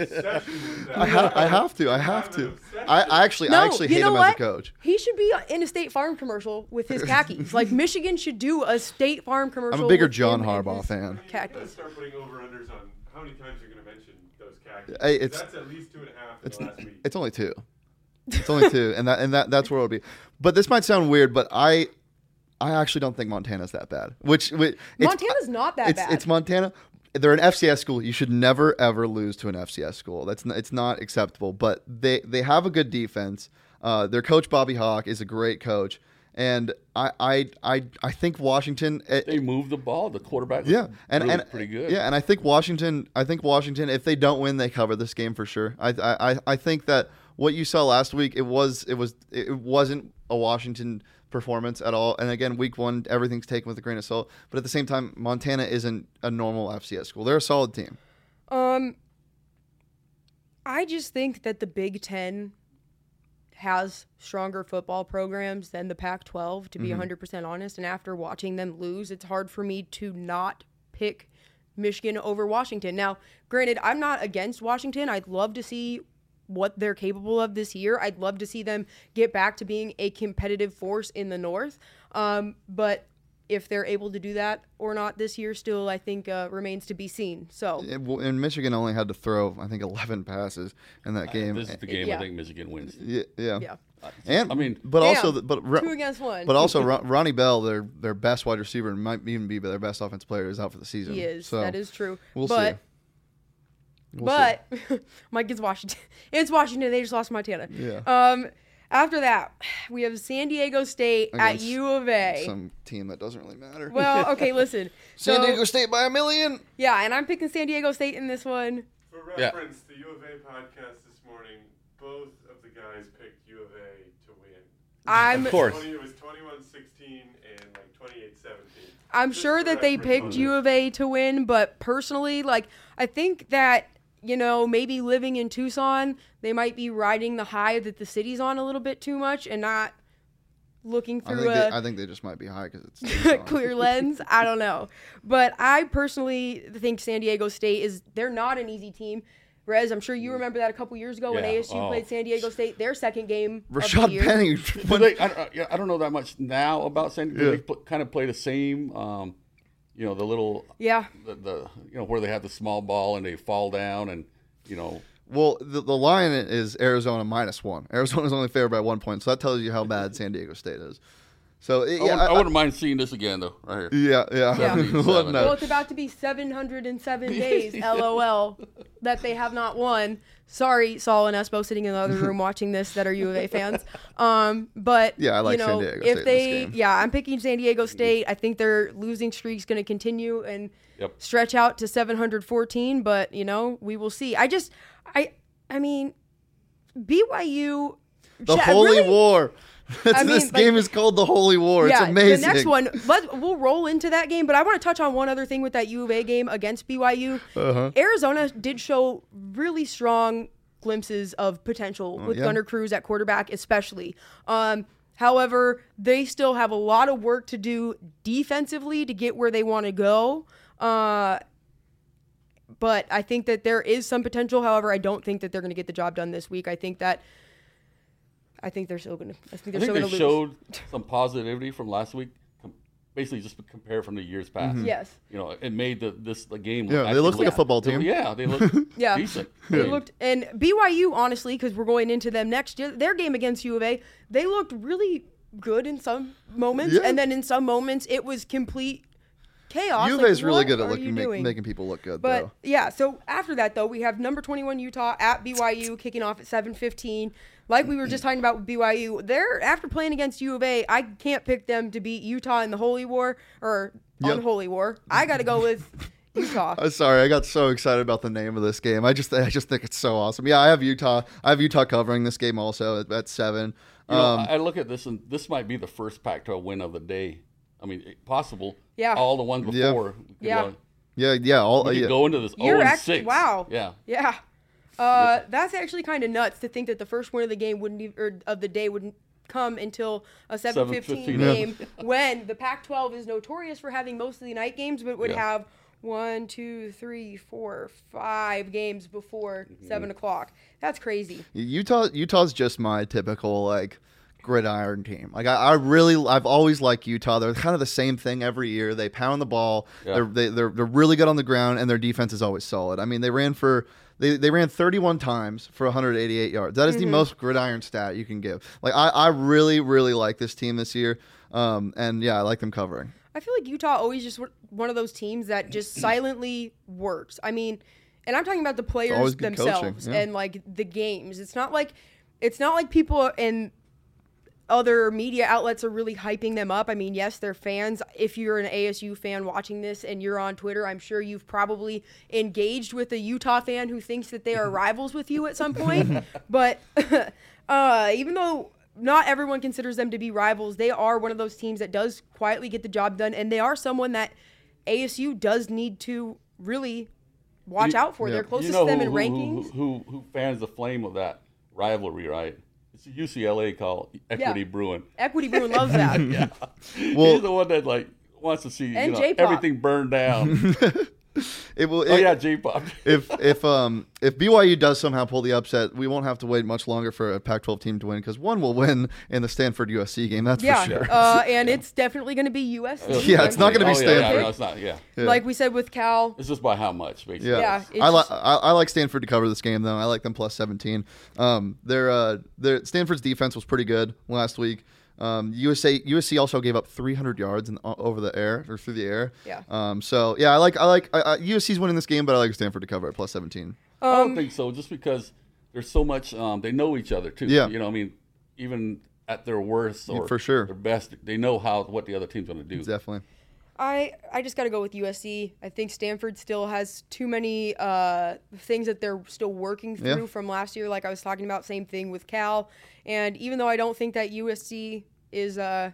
I, ha- I have to. I have to. I, I actually No, I actually you hate know him what? as a coach. He should be in a State Farm commercial with his khakis. Like Michigan should do a State Farm commercial. I'm a bigger with John him and Harbaugh his fan. You gotta Khakis. start putting over-unders on how many times you're going to mention those khakis. Hey, 'Cause it's- that's at least two and a half in It's the last week. it's only two. It's only two, and that and that that's where it'll be. But this might sound weird, but I I actually don't think Montana's that bad. Which, which it's, Montana's not that it's, bad. It's Montana. They're an F C S school. You should never ever lose to an F C S school. That's n- it's not acceptable. But they they have a good defense. Uh, their coach Bobby Hawk is a great coach, and I I I, I think Washington. It, They move the ball. The quarterback was yeah, and really and pretty good. Yeah, and I think Washington. I think Washington. If they don't win, they cover this game for sure. I I I think that what you saw last week, it was it was it wasn't a Washington performance at all. And again, week one, everything's taken with a grain of salt. But at the same time, Montana isn't a normal F C S school. They're a solid team. Um, I just think that the Big Ten has stronger football programs than the Pac twelve, to be Mm-hmm. one hundred percent honest. And after watching them lose, it's hard for me to not pick Michigan over Washington. Now, granted, I'm not against Washington. I'd love to see what they're capable of this year. I'd love to see them get back to being a competitive force in the North. Um, but if they're able to do that or not this year still, I think uh, remains to be seen. So, It- well, and Michigan only had to throw, I think, eleven passes in that game. This is the game Yeah. I think Michigan wins. yeah, yeah. yeah. And I mean, but also, Damn, the- but Two against one. But also, Ron, Ronnie Bell, their their best wide receiver, and might even be their best offensive player, is out for the season. He is. So that is true. we'll but, see. We'll see. but Mike gets Washington. It's Washington. They just lost Montana. Yeah. Um, After that, we have San Diego State at Against U of A. Some team that doesn't really matter. Well, okay, listen. San So, Diego State by a million. yeah, and I'm picking San Diego State in this one. For Yeah. reference, the U of A podcast this morning, both of the guys picked U of A to win. I'm Of course. twenty, it was twenty-one sixteen and like twenty-eight seventeen. I'm Just sure for that they reference picked on U this. of A to win, but personally, like, I think that, you know, maybe living in Tucson, they might be riding the high that the city's on a little bit too much and not looking I through think, they, a I think they just might be high because it's Tucson. clear lens. I don't know. But I personally think San Diego State is, they're not an easy team. Rez, I'm sure you remember that a couple years ago when Yeah. A S U Oh. played San Diego State, their second game of the Rashad year. Penny. Do they, I, don't- yeah, I don't know that much now about San Diego. Yeah. They pl- kind of play the same, um, you know, the little, Yeah. the, the, you know, where they have the small ball and they fall down and, you know, Well, the, the line is Arizona minus one. Arizona's only favored by one point, so that tells you how bad San Diego State is. So it, I, yeah, wouldn't, I, I wouldn't mind seeing this again though, right here. yeah, yeah. Yeah. Well, no. Well, it's about to be seven hundred seven days, LOL, that they have not won. Sorry, Saul and Espo sitting in the other room watching this that are U of A fans. Um, but Yeah, I like you San know, Diego if State in this they, game. yeah, I'm picking San Diego State. I think their losing streak's going to continue and Yep. stretch out to seven hundred fourteen. But you know, we will see. I just, I, I mean, B Y U. the Sha- Holy really- War. That's, I mean, this like- game is called the Holy War. Yeah, it's amazing. the next one, let, we'll roll into that game, but I want to touch on one other thing with that U of A game against B Y U. Uh-huh. Arizona did show really strong glimpses of potential with yeah. Gunnar Cruz at quarterback, especially. Um, however, they still have a lot of work to do defensively to get where they want to go. Uh, but I think that there is some potential. However, I don't think that they're going to get the job done this week. I think that. I think they're still going to. I think I they're think still they going to lose. showed some positivity from last week. com- Basically, just compare from the years past. Yes. You know, it made the this the game. Yeah, they actually look like a look- football team. Yeah, they look Yeah. decent. I They mean, looked, and B Y U, honestly, because we're going into them next year, their game against U of A, they looked really good in some moments, Yeah. and then in some moments it was complete chaos. U of Like, A is really what good at are looking, you make, doing? making people look good, But though. yeah, so after that though, we have number twenty-one Utah at B Y U kicking off at seven fifteen. Like we were just talking about with B Y U, they're after playing against U of A, I can't pick them to beat Utah in the Holy War or Yep. Unholy War. I got to go with Utah. I'm sorry, I got so excited about the name of this game. I just, I just think it's so awesome. Yeah, I have Utah. I have Utah covering this game also at, at seven. You know, Um, I I look at this, and this might be the first Pac twelve win of the day. I mean, it- possible. Yeah. All the ones Yeah. before. we could, Yeah. uh, yeah, yeah, all We could yeah. go into this You're oh and act- six. wow. Yeah. Yeah. Uh, that's actually kind of nuts to think that the first win of the game wouldn't e- or of the day wouldn't come until a seven fifteen seven fifteen, yeah. game when the Pac twelve is notorious for having most of the night games, but would Yeah. have one, two, three, four, five games before Mm-hmm. seven o'clock. That's crazy. Utah Utah's just my typical like gridiron team. Like I, I really I've always liked Utah. They're kind of the same thing every year. They pound the ball. Yeah. They're they, they're they're really good on the ground, and their defense is always solid. I mean, they ran for they, they ran thirty-one times for one hundred eighty-eight yards. That is the most gridiron stat you can give. Like I, I really really like this team this year. Um and yeah, I like them covering. I feel like Utah always just w- one of those teams that just silently works. I mean, and I'm talking about the players always good coaching, themselves yeah. and like the games. It's not like it's not like people in other media outlets are really hyping them up. I mean, yes, they're fans. If you're an A S U fan watching this and you're on Twitter, I'm sure you've probably engaged with a Utah fan who thinks that they are rivals with you at some point. But uh, even though not everyone considers them to be rivals, they are one of those teams that does quietly get the job done, and they are someone that A S U does need to really watch You- out for. yeah. They're You closest know to them who, in who, rankings. who, who, who fans the flame of that rivalry, right? It's U C L A called Equity Yeah. Brewing. Equity Bruin loves that. Yeah. Well- He's the one that like wants to see you And know, J-Pop. everything burned down. It will oh it- yeah, J-pop. if if um if B Y U does somehow pull the upset, we won't have to wait much longer for a Pac twelve team to win because one will win in the Stanford U S C game. That's Yeah, for sure. uh, and it's definitely going to be U S C. Yeah, it's not gonna be oh, yeah, yeah, Stanford. no, it's not. Yeah, Yeah. Like we said with Cal. it's just by how much, basically. Yeah, Yeah, it's I like just- I, I like Stanford to cover this game though. I like them plus seventeen. Um, their uh, their Stanford's defense was pretty good last week. Um, U S A U S C also gave up three hundred yards in, uh, over the air or through the air. Yeah. Um, so yeah, I like I like I, I, U S C's winning this game, but I like Stanford to cover at plus seventeen. I don't Um, think so, just because there's so much. Um, they know each other too. Yeah. You know, I mean, even at their worst or For sure. their best, they know how what the other team's going to do. Definitely. I, I just got to go with U S C. I think Stanford still has too many uh, things that they're still working through Yeah. from last year, like I was talking about. Same thing with Cal. And even though I don't think that U S C is uh,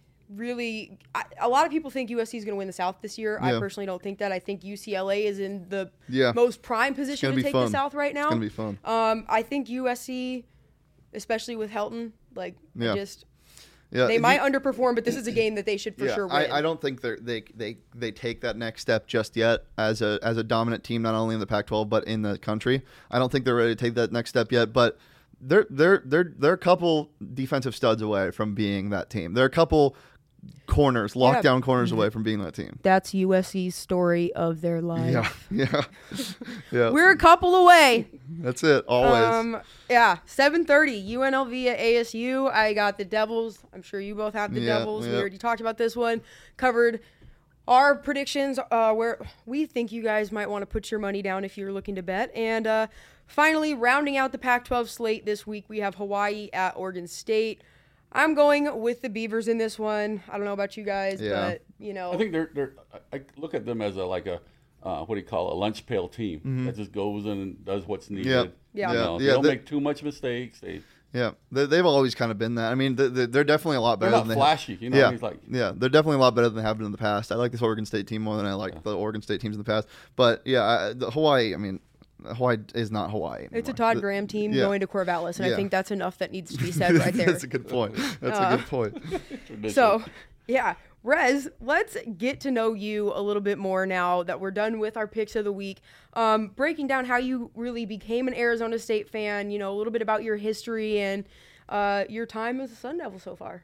really I, – a lot of people think U S C is going to win the South this year. I Yeah. personally don't think that. I think U C L A is in the Yeah. most prime position gonna to be take fun. the South right now. It's gonna be fun. Um, I think U S C, especially with Helton, like Yeah. I just – Yeah, they you- might underperform, but this is a game that they should for yeah, sure win. I, I don't think they're, they they they take that next step just yet as a as a dominant team, not only in the Pac twelve but in the country. I don't think they're ready to take that next step yet. But they're they're they're they're a couple defensive studs away from being that team. They're a couple corners, Yeah. lockdown corners away from being that team. That's U S C's story of their life. Yeah, yeah, yeah. We're a couple away. That's it. Always. Um, yeah, seven thirty, U N L V at A S U. I got the Devils. I'm sure you both have the Yeah, Devils. We yeah. already talked about this one. Covered our predictions, uh, where we think you guys might want to put your money down if you're looking to bet. And uh, finally, rounding out the Pac twelve slate this week, we have Hawaii at Oregon State. I'm going with the Beavers in this one. I don't know about you guys, Yeah. but, you know. I think they're they're. I I look at them as a like a uh, what do you call it, a lunch pail team that just goes in and does what's needed. Yep. Yeah. You Yeah. know, they Yeah, don't they- make too much mistakes. They Yeah, they, they've always kind of been that. I mean, they, they- they're definitely a lot they're better not than flashy. You know, yeah, he's like yeah, they're definitely a lot better than they have been in the past. I like this Oregon State team more than I like Yeah. the Oregon State teams in the past. But yeah, I, the Hawaii. I mean, Hawaii is not Hawaii anymore. It's a Todd The- Graham team yeah. going to Corvallis, and I Yeah. think that's enough that needs to be said right there. That's a good point. That's Uh, a good point. ridiculous. So, yeah, Rez, let's get to know you a little bit more now that we're done with our picks of the week. Um, breaking down how you really became an Arizona State fan, you know, a little bit about your history and uh, your time as a Sun Devil so far.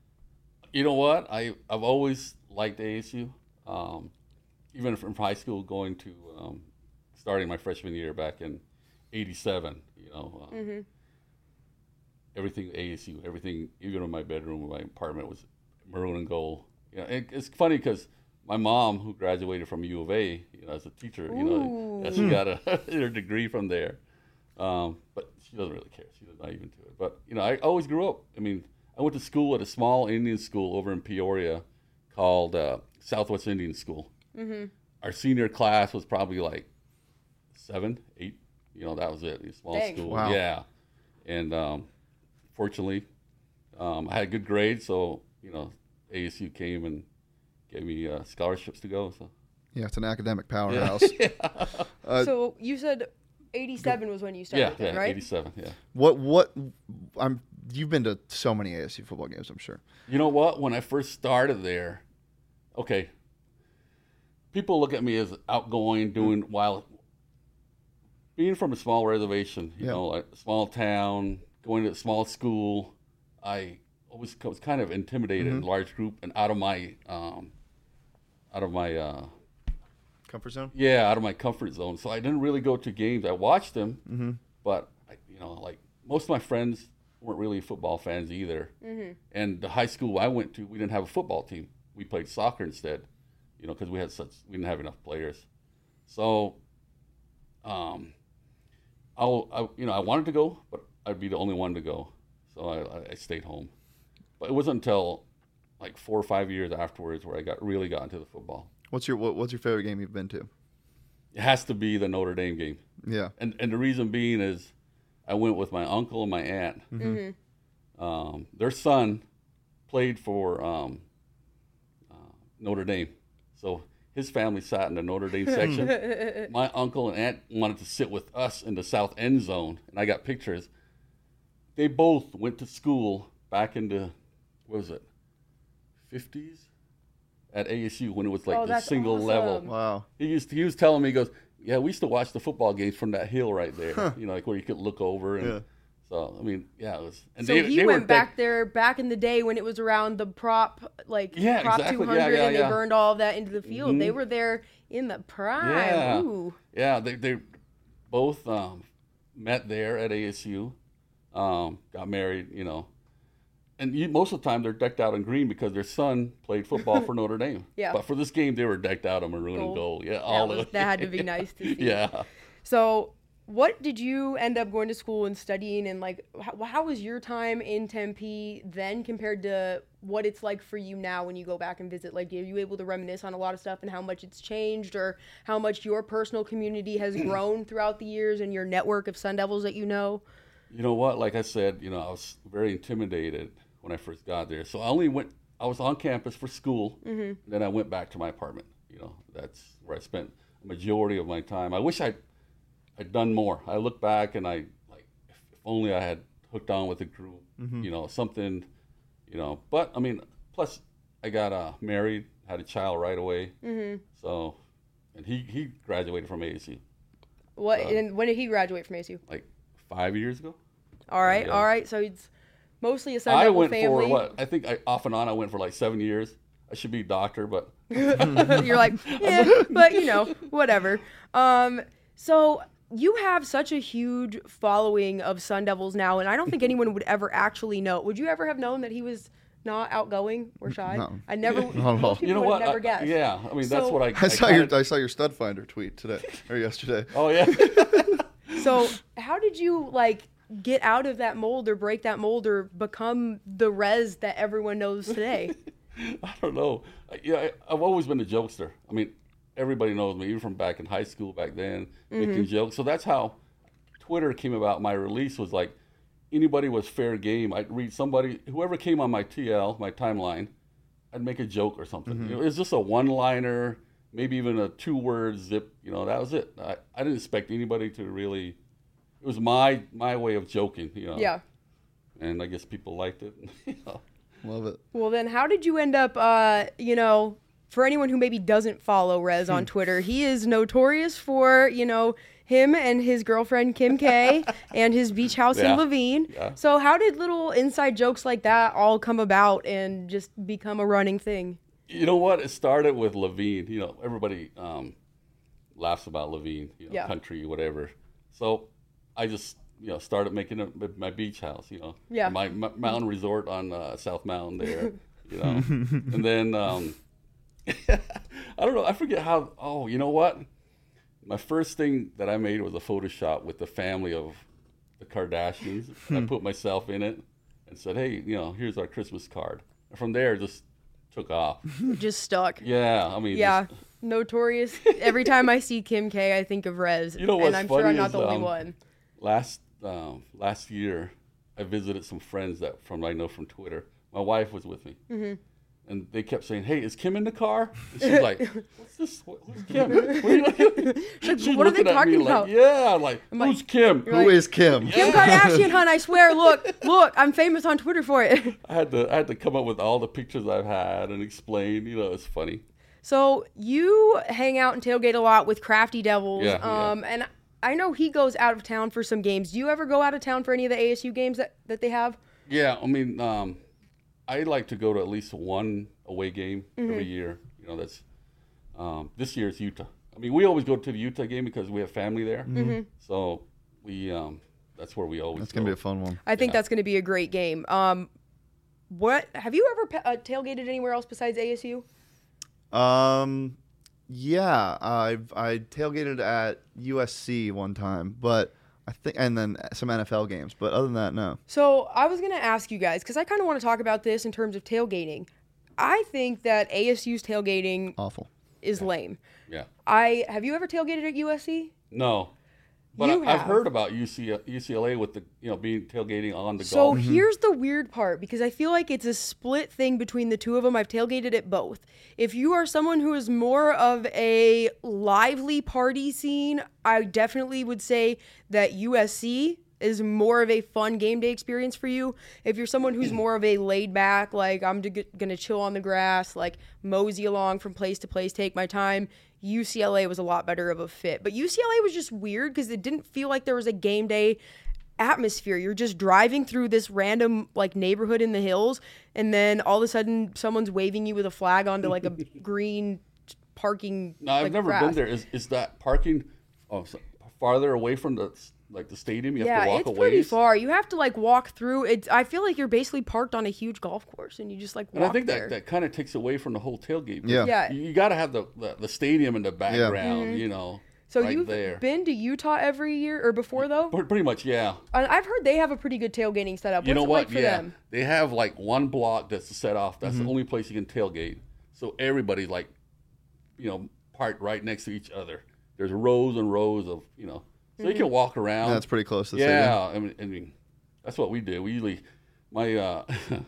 You know what? I I've always liked A S U, um, even from high school, going to um, starting my freshman year back in eighty-seven. You know, um, Mm-hmm. everything A S U, everything, even in my bedroom, my apartment was maroon and gold. You know, it, it's funny because my mom, who graduated from U of A, you know, as a teacher, you know, yeah, she Ooh. got a her degree from there. Um, but she doesn't really care. She's not even to it. But you know, I always grew up. I mean, I went to school at a small Indian school over in Peoria called uh, Southwest Indian School. Mm-hmm. Our senior class was probably like seven, eight. You know, that was it. A small Dang. school. Wow. Yeah. And um, fortunately, um, I had good grades, so you know, A S U came and gave me uh, scholarships to go. So Yeah, it's an academic powerhouse. Uh, So you said eighty-seven was when you started, yeah, then, yeah, right? eighty-seven. Yeah. what what? I'm. You've been to so many A S U football games, I'm sure. You know what? When I first started there, okay, people look at me as outgoing, doing while being from a small reservation, you Yeah. know, like a small town, going to a small school. I always was kind of intimidated in a large group and out of my, um, out of my, uh, Comfort zone. yeah, out of my comfort zone. So I didn't really go to games. I watched them, Mm-hmm. but I, you know, like most of my friends weren't really football fans either. Mm-hmm. And the high school I went to, we didn't have a football team. We played soccer instead, you know, because we had such we didn't have enough players. So, um, I'll I, you know I wanted to go, but I'd be the only one to go, so I, I stayed home. But it wasn't until like four or five years afterwards where I got really got into the football. What's your what, What's your favorite game you've been to? It has to be the Notre Dame game. Yeah. And and the reason being is I went with my uncle and my aunt. Mm-hmm. Um, their son played for um, uh, Notre Dame. So his family sat in the Notre Dame section. My uncle and aunt wanted to sit with us in the south end zone, and I got pictures. They both went to school back in the, what was it, fifties? At A S U when it was like Oh, the that's single awesome. level. Wow. He used he was telling me, he goes, yeah, we used to watch the football games from that hill right there. Huh. You know, like where you could look over. And Yeah. So, I mean, yeah, it was. And So they, he they went were back deck- there back in the day when it was around the prop, like Yeah, prop exactly. two hundred, Yeah, yeah, and they yeah. burned all of that into the field. Mhm. They were there in the prime. Yeah. Ooh. Yeah, they they both um, met there at A S U, um, got married, you know, and you, most of the time they're decked out in green because their son played football for Notre Dame. Yeah. But for this game, they were decked out in maroon Gold. and gold. Yeah, That, all was, of that had to be nice to see. Yeah. So what did you end up going to school and studying, and like how, how was your time in Tempe then compared to what it's like for you now when you go back and visit? Like, are you able to reminisce on a lot of stuff and how much it's changed, or how much your personal community has grown throughout the years and your network of Sun Devils that you know? You know what? Like I said, you know, I was very intimidated when I first got there. So I only went, I was on campus for school, mm-hmm. and then I went back to my apartment. You know, that's where I spent a majority of my time. I wish I'd, I'd done more. I look back and I, like, if, if only I had hooked on with a group, mm-hmm. you know, something, you know. But, I mean, plus I got uh, married, had a child right away. Mm-hmm. So, and he, he graduated from A S U. What? Uh, and when did he graduate from A S U? Like five years ago. All right, yeah. all right. So it's mostly a Sun I Devil went family. for what? I think I, off and on I went for like seven years. I should be a doctor, but you're like, yeah, but you know, whatever. Um, so you have such a huge following of Sun Devils now, and I don't think anyone would ever actually know. Would you ever have known that he was not outgoing or shy? No. I never. Not at all. You know would what? Never I, guessed. yeah, I mean So- that's what I. I saw kinda, your I saw your stud finder tweet today or yesterday. Oh yeah. So how did you like get out of that mold or break that mold or become the Rez that everyone knows today? I don't know. Yeah, I, I've always been a jokester. I mean, everybody knows me, even from back in high school back then, mm-hmm. making jokes. So that's how Twitter came about. My release was like, anybody was fair game. I'd read somebody, whoever came on my T L, my timeline, I'd make a joke or something. Mm-hmm. You know, it was just a one-liner, maybe even a two-word zip. You know, that was it. I, I didn't expect anybody to really. It was my my way of joking. You know. Yeah. And I guess people liked it. You know. Love it. Well, then how did you end up, uh, you know, for anyone who maybe doesn't follow Rez on Twitter, he is notorious for, you know, him and his girlfriend Kim K and his beach house Yeah. in Levine. Yeah. So how did little inside jokes like that all come about and just become a running thing? You know what? It started with Levine. You know, everybody um, laughs about Levine, you know, Yeah. country, whatever. So I just, you know, started making a, my beach house, you know, Yeah. my, my mountain resort on uh, South Mountain there, you know. And then, um, I don't know, I forget how, oh, you know what? My first thing that I made was a Photoshop with the family of the Kardashians. I put myself in it and said, hey, you know, here's our Christmas card. And from there, it just took off. It just stuck. Yeah, I mean, Yeah. just- Notorious. Every time I see Kim K, I think of Rez. You know and what's I'm sure I'm funny not is, the only um, one. last um, last year, I visited some friends that from I know from Twitter. My wife was with me, mm-hmm. and they kept saying, "Hey, is Kim in the car?" And she's like, "What's this? What, who's Kim?" What are, you looking? She's She's what are they looking at me talking like, about? yeah, I'm like, like- who's Kim? You're Who like- is Kim? Kim Kardashian, hun, I swear, look, look, I'm famous on Twitter for it. I had to I had to come up with all the pictures I've had and explain. You know, it's funny. So you hang out and tailgate a lot with Crafty Devils, Yeah, yeah. um, and I know he goes out of town for some games. Do you ever go out of town for any of the A S U games that, that they have? Yeah, I mean, um, I like to go to at least one away game Mm-hmm. every year. You know, that's um, this year's Utah. I mean, we always go to the Utah game because we have family there. Mm-hmm. So we um, that's where we always. That's go. gonna be a fun one. I think Yeah. that's going to be a great game. Um, what have you ever pa- uh, tailgated anywhere else besides A S U? Um, yeah, I've I tailgated at U S C one time, but I think, and then some N F L games. But other than that, no. So I was going to ask you guys, because I kind of want to talk about this in terms of tailgating. I think that A S U's tailgating Awful. is lame. Yeah. I have you ever tailgated at U S C? No. But You I, I've have. heard about U C, U C L A with the you know being tailgating on the So golf. here's the weird part, because I feel like it's a split thing between the two of them. I've tailgated at both. If you are someone who is more of a lively party scene, I definitely would say that U S C is more of a fun game day experience for you. If you're someone who's more of a laid back, like I'm d- gonna chill on the grass, like mosey along from place to place, take my time, U C L A was a lot better of a fit. But U C L A was just weird because it didn't feel like there was a game day atmosphere. You're just driving through this random like neighborhood in the hills, and then all of a sudden someone's waving you with a flag onto like a green parking. No, I've like, never grass. been there. Is is that parking oh, so farther away from the like the stadium? You have Yeah, to walk it's away. pretty far. You have to like walk through it. I feel like you're basically parked on a huge golf course, and you just like walk And I think there. that, that kind of takes away from the whole tailgate. Yeah. Yeah. You, you got to have the, the the stadium in the background, Mm-hmm. you know. So right you've there. been to Utah every year or before though? Pre- Pretty much, yeah. I- I've heard they have a pretty good tailgating setup. You What's know it what? like for yeah, them? they have like one block that's set off. That's Mm-hmm. the only place you can tailgate. So everybody like, you know, parked right next to each other. There's rows and rows of, you know, so you can walk around. Yeah, that's pretty close to the Yeah, I mean, I mean, that's what we do. We usually, my uh,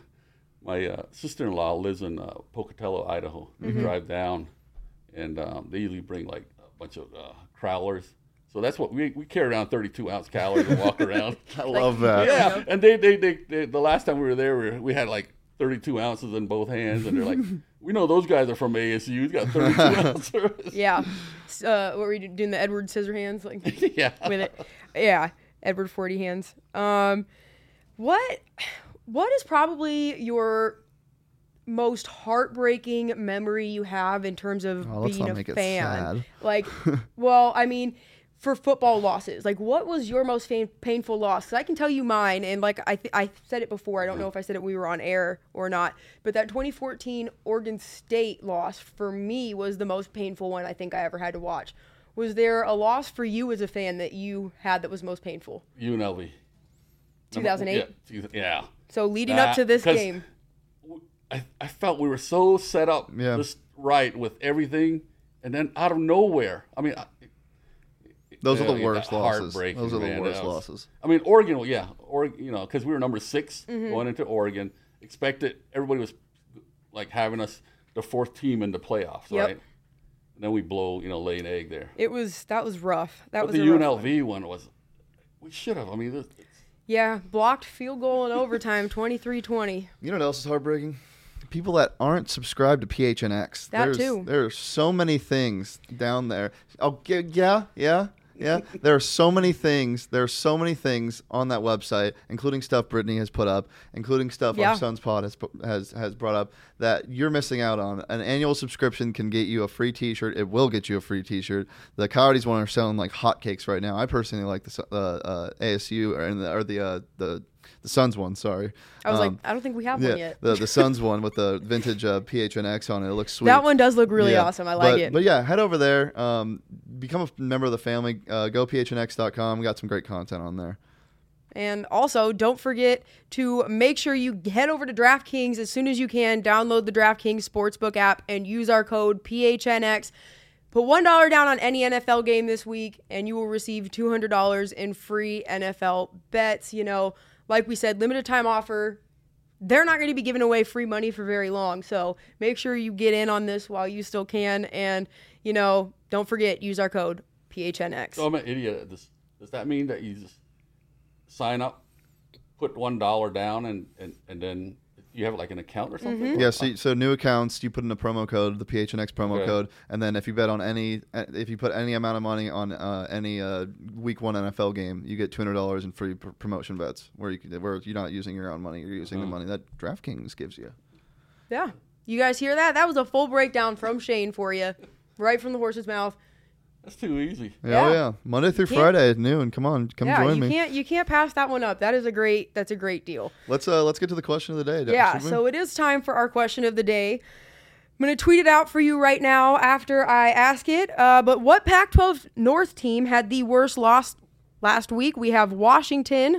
my uh, sister-in-law lives in uh, Pocatello, Idaho. We Mm-hmm. drive down, and um, they usually bring like a bunch of uh, crowlers. So that's what we we carry around thirty-two ounce calories and walk around. I love that. Yeah, and they, they they they the last time we were there, we, were, we had like thirty-two ounces in both hands, and they're like, we know those guys are from A S U. He's got thirty-two ounces. Yeah. S- Uh, what were you doing? The Edward Scissorhands, like yeah. with it? Yeah, Edward Forty Hands. Um, what what is probably your most heartbreaking memory you have in terms of Oh, let's being not a make it fan? sad. Like, well, I mean, for football losses, like, what was your most fa- painful loss? 'Cause I can tell you mine, and like I th- I said it before. I don't know if I said it when we were on air or not, but that twenty fourteen Oregon State loss for me was the most painful one I think I ever had to watch. Was there a loss for you as a fan that you had that was most painful? U N L V. two thousand eight. Yeah. Yeah. So leading That- up to this 'cause game. I, I felt we were so set up Yeah. just right with everything, and then out of nowhere, I mean, I- Those are yeah, the worst yeah, losses. heartbreaking, Those are the man. worst That was- losses. I mean, Oregon, well, yeah, Oregon, you know, because we were number six Mm-hmm. going into Oregon. Expected everybody was like having us the fourth team in the playoffs, Yep. right? And then we blow, you know, lay an egg there. It was that was rough. That But was the a rough one. U N L V one was, we should have. I mean, this, it's, Yeah, blocked field goal in overtime, twenty-three twenty. You know what else is heartbreaking? People that aren't subscribed to P H N X. That There's, too. There are so many things down there. Oh, yeah, yeah, yeah. Yeah, there are so many things. There are so many things on that website, including stuff Brittany has put up, including stuff Yeah. our Sons Pod has, pu- has has brought up that you're missing out on. An annual subscription can get you a free T-shirt. It will get you a free T-shirt. The Coyotes one are selling like hotcakes right now. I personally like the uh, uh, A S U or, the or the uh, the the Suns one. Sorry, I was Um, like, I don't think we have yeah, one yet. the the Suns one with the vintage uh, P H N X on it. It looks sweet. That one does look really Yeah, awesome. I like but, it. But yeah, head over there. Um, become a member of the family. Uh, go P H N X dot com. We got some great content on there. And also, don't forget to make sure you head over to DraftKings as soon as you can. Download the DraftKings Sportsbook app and use our code P H N X. Put one dollar down on any N F L game this week, and you will receive two hundred dollars in free N F L bets. You know, like we said, limited time offer. They're not going to be giving away free money for very long. So make sure you get in on this while you still can. And, you know, don't forget, use our code P H N X. so I'm an idiot. Does, does that mean that you just sign up, put one dollar down, and, and, and then you have like an account or something? Mm-hmm. Yeah. So, so new accounts, you put in a promo code, the P H N X promo Okay. code, and then if you bet on any, if you put any amount of money on uh, any uh, Week One N F L game, you get two hundred dollars in free pr- promotion bets. Where you can, where you're not using your own money, you're using the Mhm. money that DraftKings gives you. Yeah. You guys hear that? That was a full breakdown from Shane for you, right from the horse's mouth. That's too easy. Yeah, Yeah. Oh yeah. Monday through Can't- Friday at noon. Come on, come yeah, join you me. can't you can't pass that one up. That is a great that's a great deal. Let's uh let's get to the question of the day. Yeah, should we? so it is time for our question of the day. I'm going to tweet it out for you right now after I ask it. Uh, but what Pac twelve North team had the worst loss last week? We have Washington,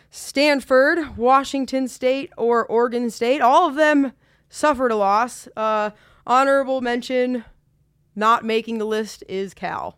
Stanford, Washington State, or Oregon State. All of them suffered a loss. Uh, honorable mention, not making the list, is Cal.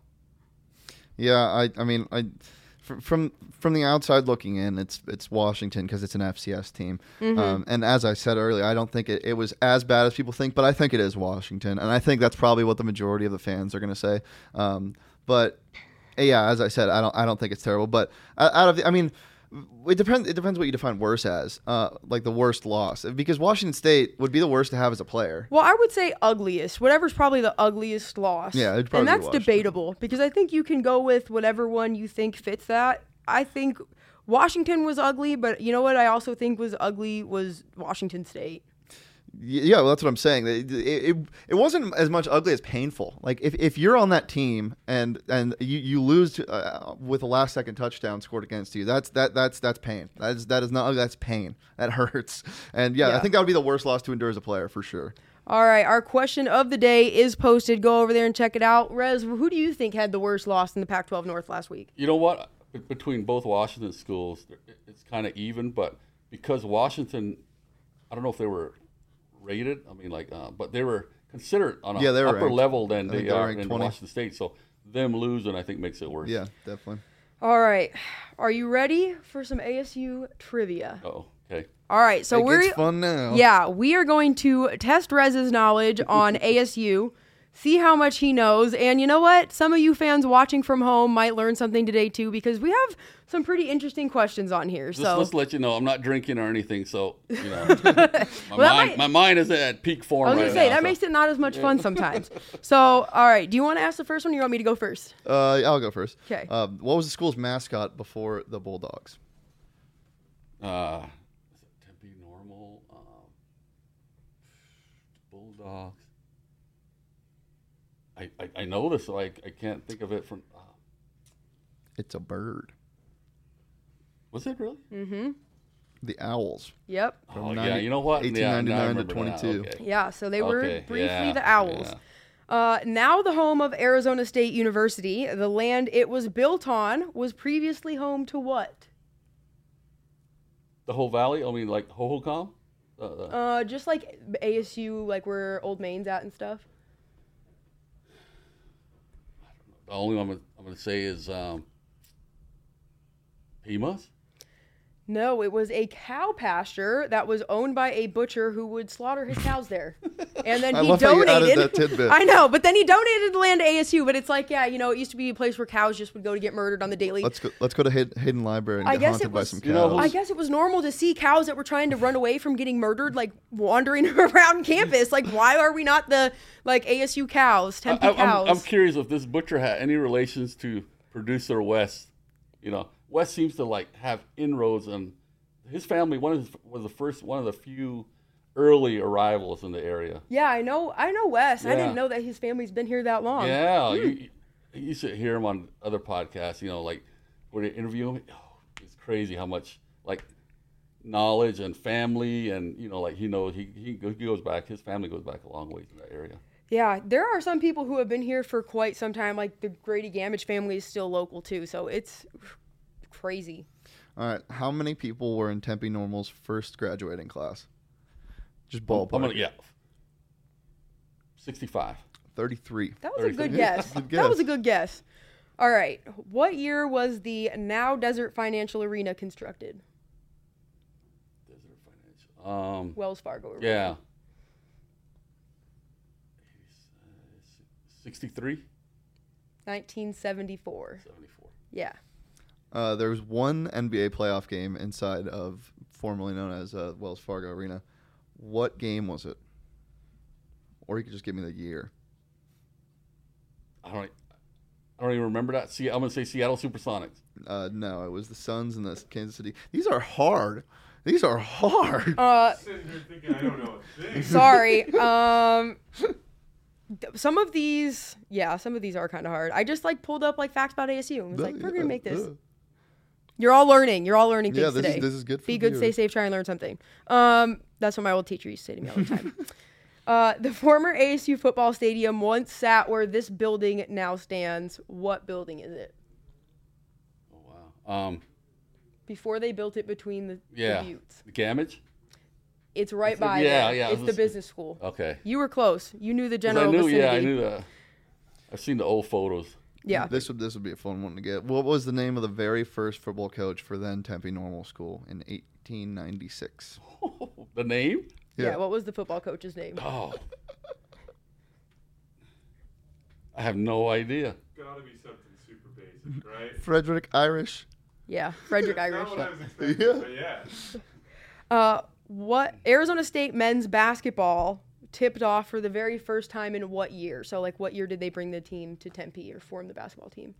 Yeah, I I mean I fr- from from the outside looking in, it's it's Washington because it's an F C S team. Mm-hmm. Um, and as I said earlier, I don't think it, it was as bad as people think, but I think it is Washington, and I think that's probably what the majority of the fans are going to say. Um, but yeah, as I said, I don't I don't think it's terrible. But out out of the, I mean. It depends. It depends what you define worse as, uh, like the worst loss. Because Washington State would be the worst to have as a player. Well, I would say ugliest. Whatever's probably the ugliest loss. Yeah, it'd probably and be that's Washington. debatable because I think you can go with whatever one you think fits that. I think Washington was ugly, but you know what I also think was ugly was Washington State. Y- Yeah, well, that's what I'm saying. It, it, it wasn't as much ugly as painful. Like if, if you're on that team and and you, you lose to, uh, with a last second touchdown scored against you, that's that that's that's pain. That is that is not that's pain. That hurts. And yeah, Yeah. I think that would be the worst loss to endure as a player for sure. All right, our question of the day is posted. Go over there and check it out. Rez, who do you think had the worst loss in the Pac twelve North last week? You know what? Be- Between both Washington schools, it- it's kind of even, but because Washington, I don't know if they were rated. I mean, like, uh, but they were considered on a Yeah, they were upper ranked. level than I think they they were are ranked in twenty. Washington State. So them losing, I think, makes it worse. Yeah, definitely. All right, are you ready for some A S U trivia? Oh, okay. All right, so it we're gets fun now. yeah, we are going to test Rez's knowledge on A S U, see how much he knows, and you know what? Some of you fans watching from home might learn something today too, because we have some pretty interesting questions on here. Just So let's let you know, I'm not drinking or anything, so you know, my, Well, that mind, might- my mind is at peak form I was right gonna say now. that so- makes it not as much fun sometimes. So, all right, do you want to ask the first one, or you want me to go first? Uh, I'll go first. 'Kay. Uh, what was the school's mascot before the Bulldogs? Uh, is it Tempe Normal? Um, Bulldogs. I, I, I know this, so I, I can't think of it from. Uh, It's a bird. was it really? Mm-hmm. The Owls. Yep. From Oh, yeah, ninety you know what? Yeah, now I eighteen ninety-nine to remember now. twenty-two. Okay. Yeah, so they were Okay, briefly yeah, the Owls. yeah. Uh, now the home of Arizona State University, the land it was built on was previously home to what? The whole valley? I mean, like Hohokam? Uh, the, Uh, just like A S U, like where Old Main's at and stuff. the only one I'm, gonna- I'm going to say is um, Pimas? No, it was a cow pasture that was owned by a butcher who would slaughter his cows there. And then I he love how you donated. added that tidbit. I know, but then he donated the land to A S U. But it's like, yeah, you know, it used to be a place where cows just would go to get murdered on the daily. Let's go. Let's go to Hay- Hayden Library and I get guess haunted it by was- some cows. You know who's- I guess it was normal to see cows that were trying to run away from getting murdered, like wandering around campus. Like, why are we not the like A S U cows, Tempe I, I'm, cows? I'm curious if this butcher had any relations to producer Wes. You know, Wes seems to like have inroads, and his family one of his, was the first one of the few early arrivals in the area. yeah, I know. I know Wes. I Yeah. didn't know that his family's been here that long. Yeah, you, you, you should hear him on other podcasts. You know, like where they interview him. Oh, it's crazy how much like knowledge and family, and you know, like he knows he he go- he goes back. His family goes back a long ways in that area. Yeah, there are some people who have been here for quite some time. Like the Grady Gamage family is still local too, so it's crazy. All right. How many people were in Tempe Normal's first graduating class? Just I'm ballpark. gonna yeah, sixty-five. thirty-three. That was a good thirty-three. guess. Good That was guess. a good guess. All right, what year was the now Desert Financial Arena constructed? Desert Financial. Um, Wells Fargo Arena. yeah. sixty-three, nineteen seventy-four. seventy-four. Yeah. Uh, there was one N B A playoff game inside of formerly known as uh, Wells Fargo Arena. What game was it? Or you could just give me the year. I don't. I don't even remember that. See, I'm gonna say Seattle SuperSonics. Uh, no, it was the Suns and the Kansas City. These are hard. These are hard. Uh, Sitting here thinking I don't know a thing. sorry. Um, th- some of these, yeah, some of these are kind of hard. I just like pulled up like facts about A S U and was like, we're gonna make this. Uh, You're all learning. You're all learning things Yeah, this is- today. this is good for Be the good, stay viewers. safe, try and learn something. Um, that's what my old teacher used to say to me all the time. uh, the former A S U football stadium once sat where this building now stands. What building is it? Oh wow. Um. Before they built it between the, Yeah. the buttes. The Gamage. It's right It's the- by yeah, there. yeah, I It's was the just- business school. Okay. You were close. You knew the 'Cause general I knew. vicinity. Yeah, I knew the. I've seen the old photos. Yeah. This would this would be a fun one to get. What was the name of the very first football coach for then Tempe Normal School in eighteen ninety-six? The name? yeah. What was the football coach's name? Oh. I have no idea. Gotta be something super basic, right? Frederick Irish. Yeah, Frederick That's Irish. not what I was expecting, Yeah. but yeah. Uh, what Arizona State men's basketball tipped off for the very first time in what year? So, like, what year did they bring the team to Tempe or form the basketball team?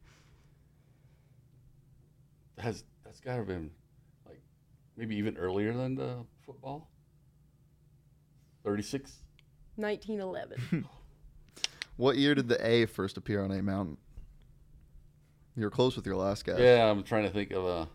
Has that's got to have been like maybe even earlier than the football. Thirty-six. nineteen eleven. What year did the A first appear on A Mountain? You were close with your last guess. Yeah, I'm trying to think of a.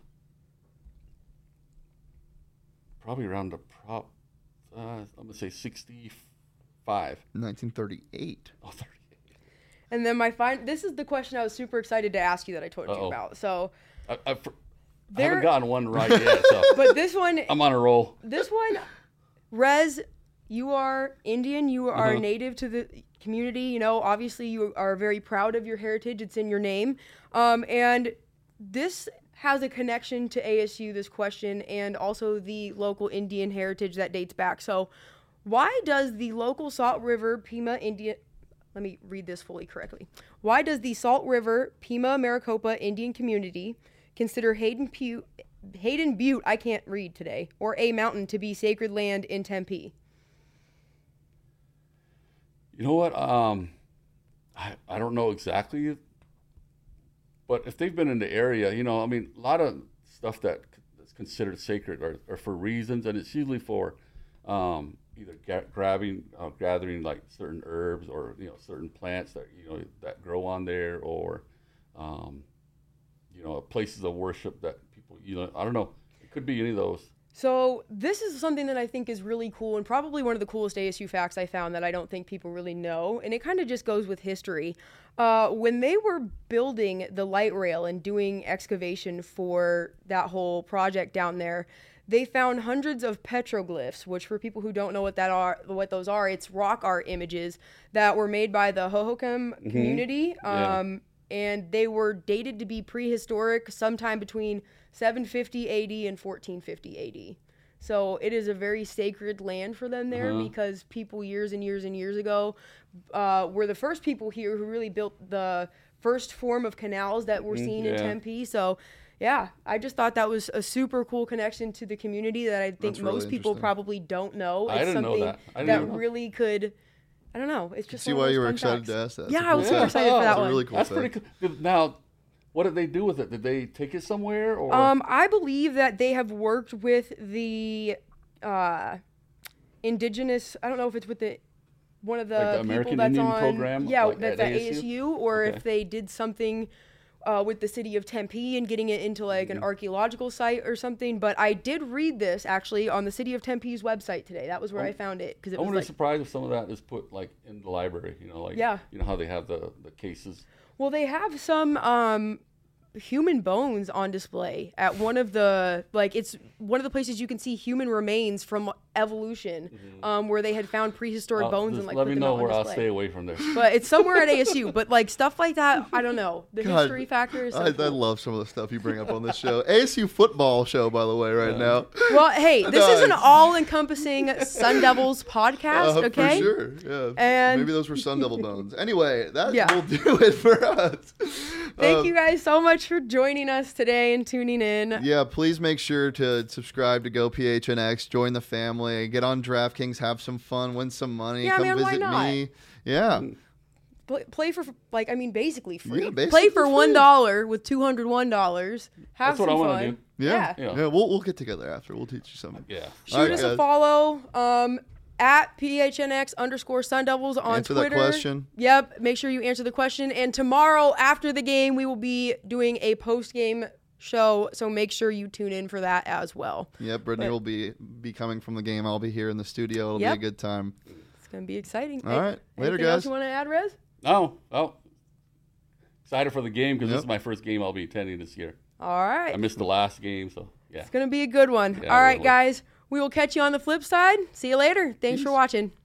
Probably around the prop. Uh, I'm gonna say sixty-five. thirty-five. nineteen thirty-eight. Oh, thirty-eight. And then my fin- this is the question I was super excited to ask you that I told Uh-oh. you about. So, I, I, I There- haven't gotten one right yet, so but this one, I'm on a roll. this one, Rez, you are Indian. You are Uh-huh. native to the community. You know, obviously, you are very proud of your heritage. It's in your name. Um, and this has a connection to A S U, this question, and also the local Indian heritage that dates back. So, why does the local Salt River Pima Indian... Let me read this fully correctly. Why does the Salt River Pima Maricopa Indian community consider Hayden Butte, Hayden Butte, I can't read today, or a mountain to be sacred land in Tempe? You know what? Um, I, I don't know exactly, but if they've been in the area, you know, I mean, a lot of stuff that that's considered sacred are, are for reasons, and it's usually for um, either ga- grabbing, uh, gathering like certain herbs or you know certain plants that you know that grow on there, or um, you know places of worship that people, you know, I don't know. It could be any of those. So this is something that I think is really cool and probably one of the coolest A S U facts I found that I don't think people really know. And it kind of just goes with history. Uh, when they were building the light rail and doing excavation for that whole project down there, they found hundreds of petroglyphs, which for people who don't know what that are, what those are, it's rock art images that were made by the Hohokam Mm-hmm. community. Yeah. Um, and they were dated to be prehistoric sometime between seven fifty A D and fourteen fifty A D. So it is a very sacred land for them there Uh-huh. because people years and years and years ago uh, were the first people here who really built the first form of canals that were seen in yeah. Tempe. So yeah, I just thought that was a super cool connection to the community that I think That's really most people interesting. probably don't know. I It's didn't know something that. I didn't know. really could, I don't know. It's just See one of why those you were fun excited facts. to ask that. That's Yeah, a I was cool super fact. excited for that That's a one. really cool That's fact. pretty cool. Now, what did they do with it? Did they take it somewhere, or Um, I believe that they have worked with the uh, indigenous. I don't know if it's with the one of the, Like the people American that's Indian on. program, Yeah, like that's at at A S U, or Okay. if they did something uh, with the city of Tempe and getting it into like Mm-hmm. an archaeological site or something. But I did read this actually on the city of Tempe's website today. That was where I found it because it I was wouldn't like. be surprised if some of that is put like in the library. You know, like Yeah. you know how they have the the cases. Well, they have some um, human bones on display at one of the like it's one of the places you can see human remains from evolution, um, where they had found prehistoric Uh, bones just and like let put me them know out where on I'll display. stay away from there. But it's somewhere at A S U. But like stuff like that, I don't know. The God, history factor is so I, I cool. love some of the stuff you bring up on this show. A S U football show, by the way, right now. Well, hey, this is an Nice. all-encompassing Sun Devils podcast. Uh, okay. For sure. Yeah. And- Maybe those were Sun Devil bones. Anyway, that Yeah. will do it for us. Thank Um, you guys so much for joining us today and tuning in. Yeah, please make sure to subscribe to Go P H N X, join the family, get on DraftKings, have some fun, win some money, Yeah, come man, why visit not? me. Yeah. Play, play for like I mean basically free. Yeah, play basically for free. one dollar with two hundred one dollars. Have That's what some I wanna fun. do. Yeah. Yeah. Yeah. Yeah. we'll we'll get together after. We'll teach you something. Yeah. Shoot All right, us guys. a follow um, at P H N X underscore Sun Devils on Answer that Twitter. question. Yep. Make sure you answer the question. And tomorrow after the game, we will be doing a post game show. So make sure you tune in for that as well. Yeah, Brittany But- will be be coming from the game. I'll be here in the studio. It'll Yep. be a good time. It's gonna be exciting. All right. Later, Anything else guys. you want to add, Rez? No. Oh, excited for the game because Yep. this is my first game I'll be attending this year. All right. I missed the last game, so yeah. It's gonna be a good one. Yeah, All right, really. guys. We will catch you on the flip side. See you later. Thanks for Peace. watching.